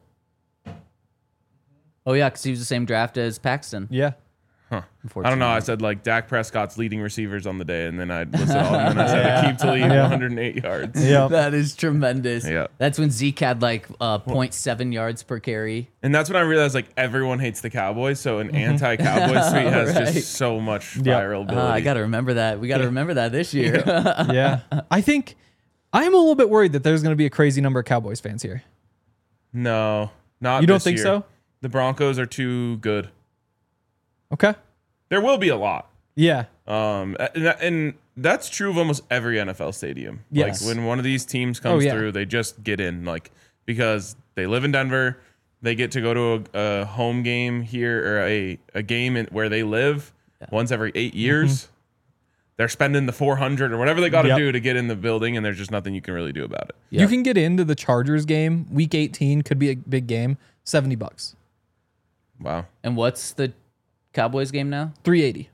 Oh, yeah, because he was the same draft as Paxton. Yeah. Huh. I don't know. I said like Dak Prescott's leading receivers on the day, and then I listed all, and then I said Aqib Talib, Yeah. one hundred eight yards. Yeah. That is tremendous. Yeah. That's when Zeke had like uh, zero point seven yards per carry. And that's when I realized like everyone hates the Cowboys, so an anti-Cowboys tweet has Right. just so much Yeah. viral Uh, ability. I got to remember that. We got to remember that this year. Yeah. I think I'm a little bit worried that there's going to be a crazy number of Cowboys fans here. no, not. You don't this think year. so? The Broncos are too good. Okay. There will be a lot. Yeah. Um, and, that- and that's true of almost every N F L stadium. Yes. Like when one of these teams comes Oh, yeah. through, they just get in, like because they live in Denver, they get to go to a, a home game here or a a game in, where they live once every eight years. They're spending the four hundred or whatever they got to Yep. do to get in the building, and there's just nothing you can really do about it. Yep. You can get into the Chargers game. Week eighteen could be a big game. seventy bucks. Wow. And what's the Cowboys game now? three eighty.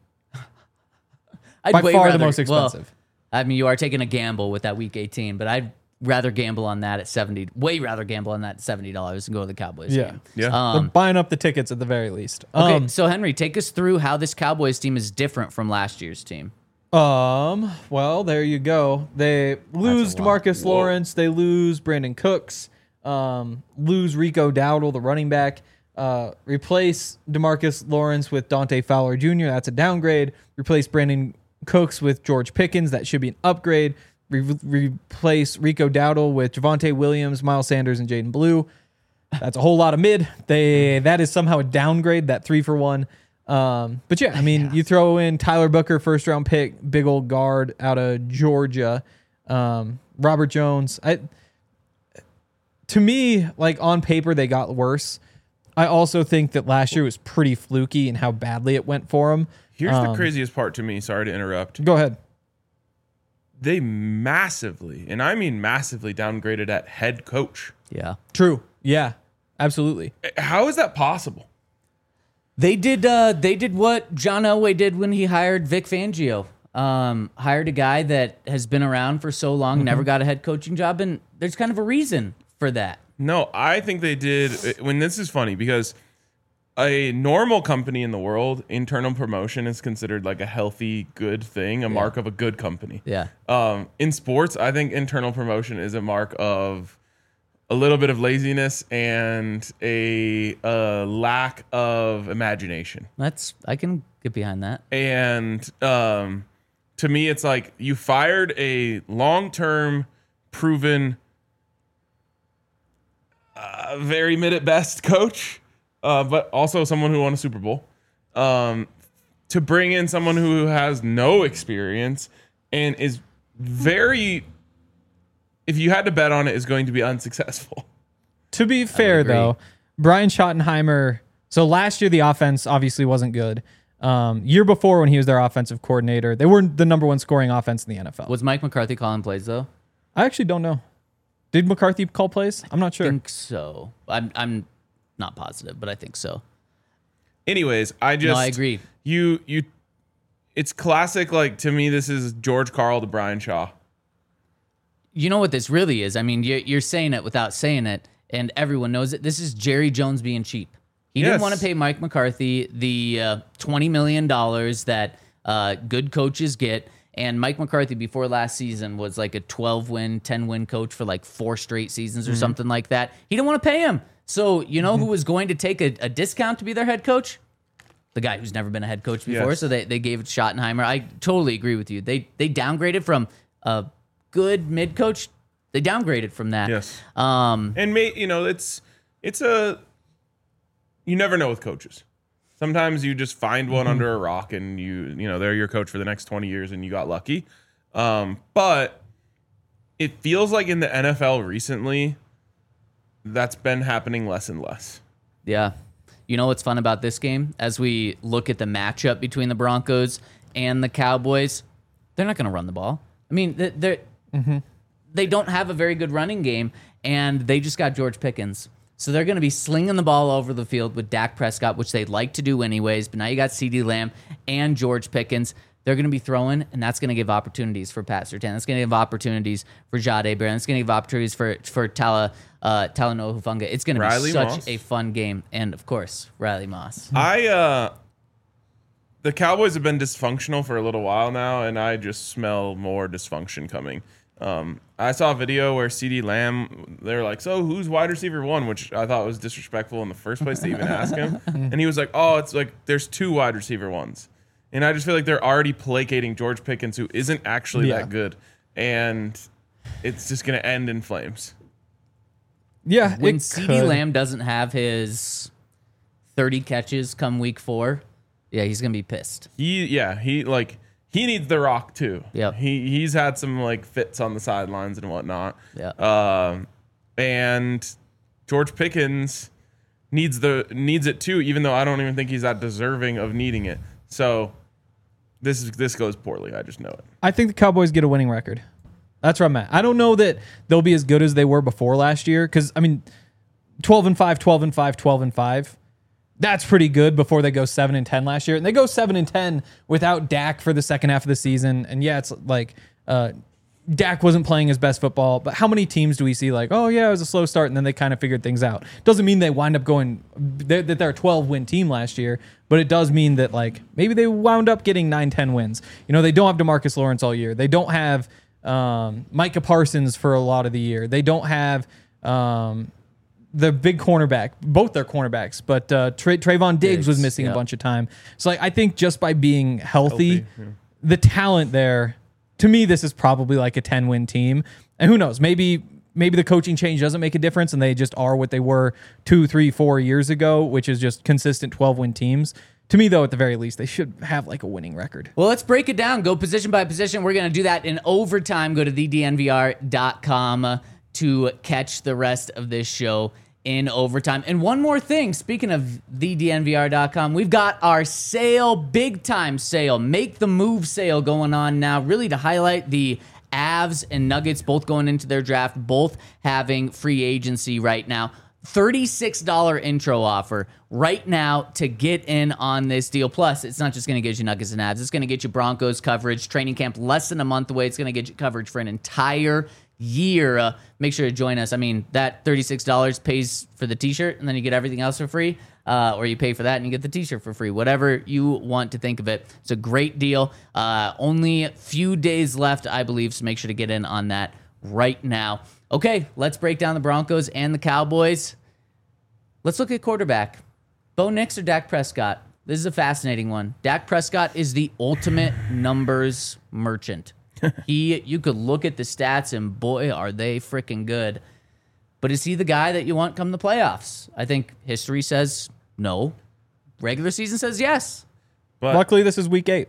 I'd By way far the rather- most well, expensive. I mean, you are taking a gamble with that week eighteen, but I'd rather gamble on that at seventy. Way rather gamble on that at seventy dollars and go to the Cowboys Yeah. game. Yeah. They're Um, buying up the tickets at the very least. okay, Um, so Henry, take us through how this Cowboys team is different from last year's team. Um. Well, there you go. They lose lot. Demarcus Whoa. Lawrence. They lose Brandon Cooks. Um. Lose Rico Dowdle, the running back. Uh. Replace Demarcus Lawrence with Dante Fowler Junior That's a downgrade. Replace Brandon Cooks with George Pickens. That should be an upgrade. Re- replace Rico Dowdle with Javonte Williams, Miles Sanders, and Jaden Blue. That's a whole lot of mid. They that is somehow a downgrade. That three for one. Um, but yeah, I mean, you throw in Tyler Booker, first round pick, big old guard out of Georgia, um, Robert Jones. I, to me, like on paper, they got worse. I also think that last year was pretty fluky in how badly it went for them. Here's the Um, craziest part to me. Sorry to interrupt. Go ahead. They massively, and I mean massively, downgraded at head coach. Yeah. True. Yeah, absolutely. How is that possible? They did. Uh, they did what John Elway did when he hired Vic Fangio. Um, hired a guy that has been around for so long, Mm-hmm. never got a head coaching job, and there's kind of a reason for that. No, I think they did. When this is funny because a normal company in the world, internal promotion is considered like a healthy, good thing, a mark of a good company. Yeah. Um, in sports, I think internal promotion is a mark of a little bit of laziness and a, uh lack of imagination. That's I can get behind that. And um, to me, it's like you fired a long-term, proven a very mid at best coach, uh, but also someone who won a Super Bowl. Um, to bring in someone who has no experience and is very, if you had to bet on it, is going to be unsuccessful. To be fair, agree. though, Brian Schottenheimer. So last year the offense obviously wasn't good. Um, year before when he was their offensive coordinator, they were the number one scoring offense in the N F L. Was Mike McCarthy calling plays though? I actually don't know. Did McCarthy call plays? I'm not I sure. think so. I'm I'm not positive, but I think so. Anyways, I just No, I agree. You you, it's classic. Like to me, this is George Karl to Brian Shaw. You know what this really is? I mean, you're, you're saying it without saying it, and everyone knows it. This is Jerry Jones being cheap. He Yes. didn't want to pay Mike McCarthy the uh, twenty million dollars that uh, good coaches get. And Mike McCarthy, before last season, was like a twelve-win, ten-win coach for like four straight seasons or Mm-hmm. something like that. He didn't want to pay him. So you know who was going to take a, a discount to be their head coach? The guy who's never been a head coach before. Yes. So they, they gave it to Schottenheimer. I totally agree with you. They they downgraded from a good mid coach. They downgraded from that. Yes. Um, And may, you know, it's it's a you never know with coaches. Sometimes you just find one Mm-hmm. under a rock and you you know, they're your coach for the next twenty years and you got lucky. Um, but it feels like in the N F L recently that's been happening less and less. Yeah. You know what's fun about this game? As we look at the matchup between the Broncos and the Cowboys, they're not going to run the ball. I mean, they're, they're, they don't have a very good running game, and they just got George Pickens. So they're going to be slinging the ball over the field with Dak Prescott, which they'd like to do anyways. But now you got CeeDee Lamb and George Pickens. They're going to be throwing, and that's going to give opportunities for Pat Surtain. That's going to give opportunities for Jade Barron. It's going to give opportunities for for Tala uh, Talanoa Hufanga. It's going to be Riley such Moss. a fun game, and of course, Riley Moss. I uh the Cowboys have been dysfunctional for a little while now, and I just smell more dysfunction coming. Um, I saw a video where CeeDee Lamb, they're like, so who's wide receiver one? Which I thought was disrespectful in the first place to even ask him. And he was like, oh, it's like there's two wide receiver ones. And I just feel like they're already placating George Pickens, who isn't actually Yeah. that good. And it's just going to end in flames. Yeah, When it CeeDee could. Lamb doesn't have his thirty catches come week four, yeah, he's going to be pissed. He, yeah, he like he needs the rock too. Yep. He he's had some like fits on the sidelines and whatnot. Yeah. Um, and George Pickens needs the needs it too, even though I don't even think he's that deserving of needing it. So this is this goes poorly. I just know it. I think the Cowboys get a winning record. That's where I'm at. I don't know that they'll be as good as they were before last year because, I mean, twelve and five, twelve and five, twelve and five. That's pretty good before they go seven and ten last year. And they go seven and ten without Dak for the second half of the season. And yeah, it's like uh, Dak wasn't playing his best football. But how many teams do we see like, oh, yeah, it was a slow start and then they kind of figured things out? Doesn't mean they wind up going, they're, that they're a twelve-win team last year. But it does mean that like maybe they wound up getting nine, ten wins. You know, they don't have DeMarcus Lawrence all year. They don't have um, Micah Parsons for a lot of the year. They don't have um, the big cornerback, both their cornerbacks, but uh, Tra- Trayvon Diggs, Diggs, was missing yeah. a bunch of time. So like I think just by being healthy, Healthy, yeah. the talent there, to me, this is probably like a ten-win team. And who knows, maybe maybe the coaching change doesn't make a difference and they just are what they were two, three, four years ago, which is just consistent twelve-win teams. To me, though, at the very least, they should have like a winning record. Well, let's break it down. Go position by position. We're going to do that in overtime. Go to the d n v r dot com to catch the rest of this show in overtime. And one more thing, speaking of the d n v r dot com, we've got our sale, big time sale, make the move sale going on now, really to highlight the Avs and Nuggets both going into their draft, both having free agency right now. thirty-six dollars intro offer right now to get in on this deal. Plus, it's not just going to get you Nuggets and Avs. It's going to get you Broncos coverage. Training camp less than a month away. It's going to get you coverage for an entire year. Uh, make sure to join us. I mean, that thirty-six dollars pays for the t-shirt, and then you get everything else for free. Uh, or you pay for that and you get the t-shirt for free. Whatever you want to think of it. It's a great deal. Uh, only a few days left, I believe, so make sure to get in on that right now. Okay, let's break down the Broncos and the Cowboys. Let's look at quarterback. Bo Nix or Dak Prescott? This is a fascinating one. Dak Prescott is the ultimate numbers merchant. He, you could look at the stats and boy, are they freaking good. But is he the guy that you want come the playoffs? I think history says no. Regular season says yes. But Luckily, this is week eight.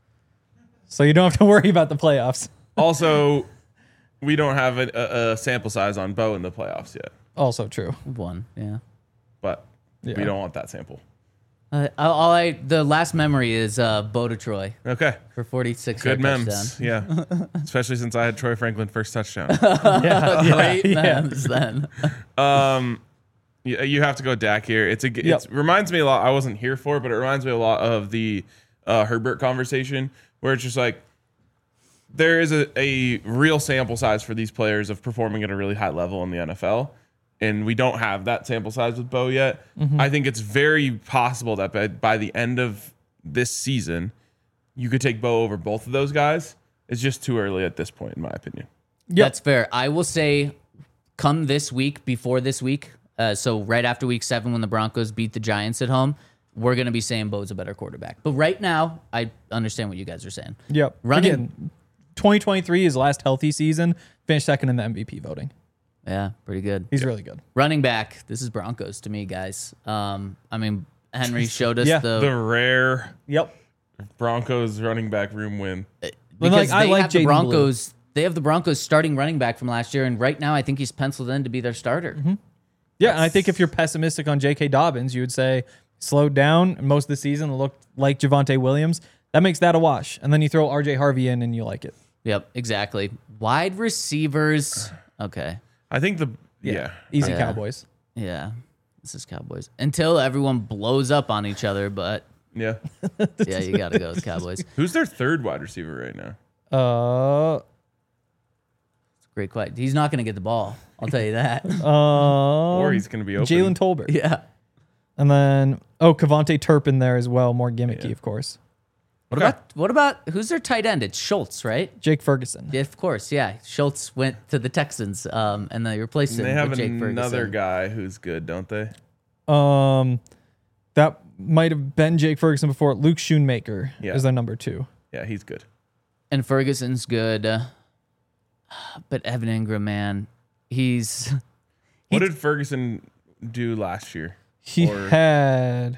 So you don't have to worry about the playoffs. also, we don't have a, a, a sample size on Bo in the playoffs yet. Also true. One, yeah. But Yeah. we don't want that sample. Uh, all I the last memory is uh, Bo to Troy Okay. for forty-six Good yard memes. touchdown. Yeah. Especially since I had Troy Franklin first touchdown. Yeah. Great yeah. memes then. Um, you, you have to go Dak here. It's a. It Yep. reminds me a lot. I wasn't here for it, but it reminds me a lot of the uh, Herbert conversation, where it's just like there is a, a real sample size for these players of performing at a really high level in the N F L, and we don't have that sample size with Bo yet. Mm-hmm. I think it's very possible that by, by the end of this season, you could take Bo over both of those guys. It's just too early at this point, in my opinion. Yep. That's fair. I will say, come this week, before this week, uh, so right after week seven when the Broncos beat the Giants at home, we're going to be saying Bo's a better quarterback. But right now, I understand what you guys are saying. Yep. Running- Again, twenty twenty-three, his last healthy season, finished second in the M V P voting. Yeah, pretty good. He's really good. Running back, this is Broncos to me, guys. Um, I mean, Henry showed us Yeah. the, The rare Yep. Broncos running back room win. because like, I they like have the Jaden Blue. Broncos. They have the Broncos starting running back from last year, and right now I think he's penciled in to be their starter. Mm-hmm. Yeah, and I think if you're pessimistic on J K. Dobbins, you would say slowed down. Most of the season looked like Javonte Williams. That makes that a wash. And then you throw R J Harvey in and you like it. Yep, exactly. Wide receivers. Okay. I think the yeah. Easy Yeah. Cowboys. Yeah. This is Cowboys. Until everyone blows up on each other, but Yeah. yeah, you got to go with Cowboys. Who's their third wide receiver right now? Uh, Great quiet. He's not going to get the ball. I'll tell you that. uh, Or he's going to be open. Jalen Tolbert. yeah. And then, oh, Kavonte Turpin there as well. More gimmicky, Yeah. of course. What Okay. about what about who's their tight end? It's Schultz, right? Jake Ferguson. Yeah, of course. Yeah, Schultz went to the Texans, um, and they replaced him And they have with Jake another Ferguson. guy who's good, don't they? Um, that might have been Jake Ferguson before. Luke Schoonmaker Yeah. is their number two. Yeah, he's good. And Ferguson's good, uh, but Evan Ingram, man, he's What did Ferguson do last year? He Or- had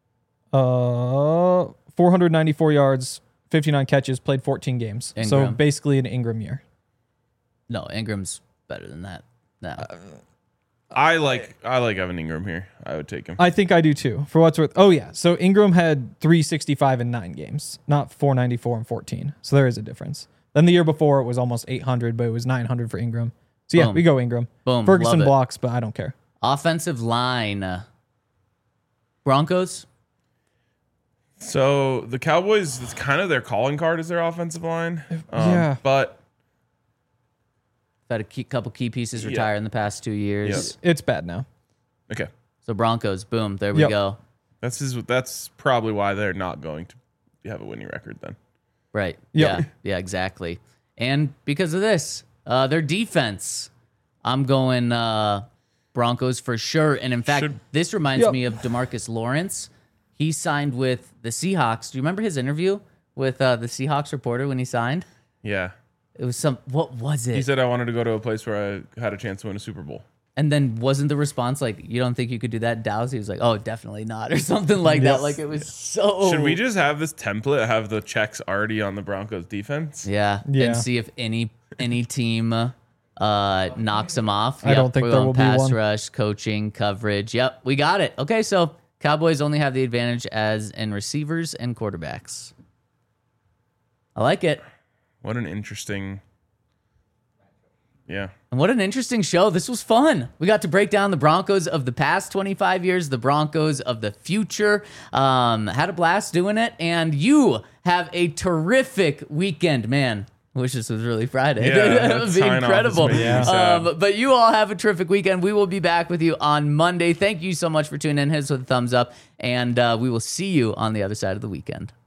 uh four hundred ninety-four yards, fifty-nine catches, played fourteen games. So Ingram. basically an Ingram year. no Ingram's better than that. No, Uh, I like I like Evan Ingram here. I would take him. I think I do too. For what's worth. Oh yeah. So Ingram had three sixty-five in nine games, not four ninety-four and fourteen. So there is a difference. Then the year before it was almost eight hundred, but it was nine hundred for Ingram. So yeah, Boom. we go Ingram. Boom, Ferguson love it. blocks, but I don't care. offensive line, uh, Broncos. So the Cowboys, it's kind of their calling card is their offensive line. Um, Yeah. But Had a key, couple key pieces Yeah. retire in the past two years. Yep. It's bad now. okay. So Broncos, boom, there we Yep. go. That's his, that's probably why they're not going to have a winning record then. Right. Yep. Yeah. Yeah. Exactly. And because of this, uh, their defense, I'm going uh, Broncos for sure. And in fact, Should- this reminds Yep. me of DeMarcus Lawrence. He signed with the Seahawks. Do you remember his interview with uh, the Seahawks reporter when he signed? Yeah. It was some. What was it? He said I wanted to go to a place where I had a chance to win a Super Bowl. And then wasn't the response like, "You don't think you could do that in Dallas?" He was like, "Oh, definitely not," or something like that. Yes. Like it was so. Should we just have this template, have the checks already on the Broncos defense? Yeah. Yeah. And see if any any team uh, knocks them off. I don't think we're there going will be pass one. rush, coaching, coverage. Yep, we got it. Okay, so Cowboys only have the advantage as in receivers and quarterbacks. I like it. What an interesting. Yeah. And what an interesting show. This was fun. We got to break down the Broncos of the past twenty-five years, the Broncos of the future. Um, had a blast doing it. And you have a terrific weekend, man. I wish this was really Friday. Yeah, that that would be sign-off is incredible. making me sad. Um, but you all have a terrific weekend. We will be back with you on Monday. Thank you so much for tuning in. Hit us with a thumbs up. And uh, we will see you on the other side of the weekend.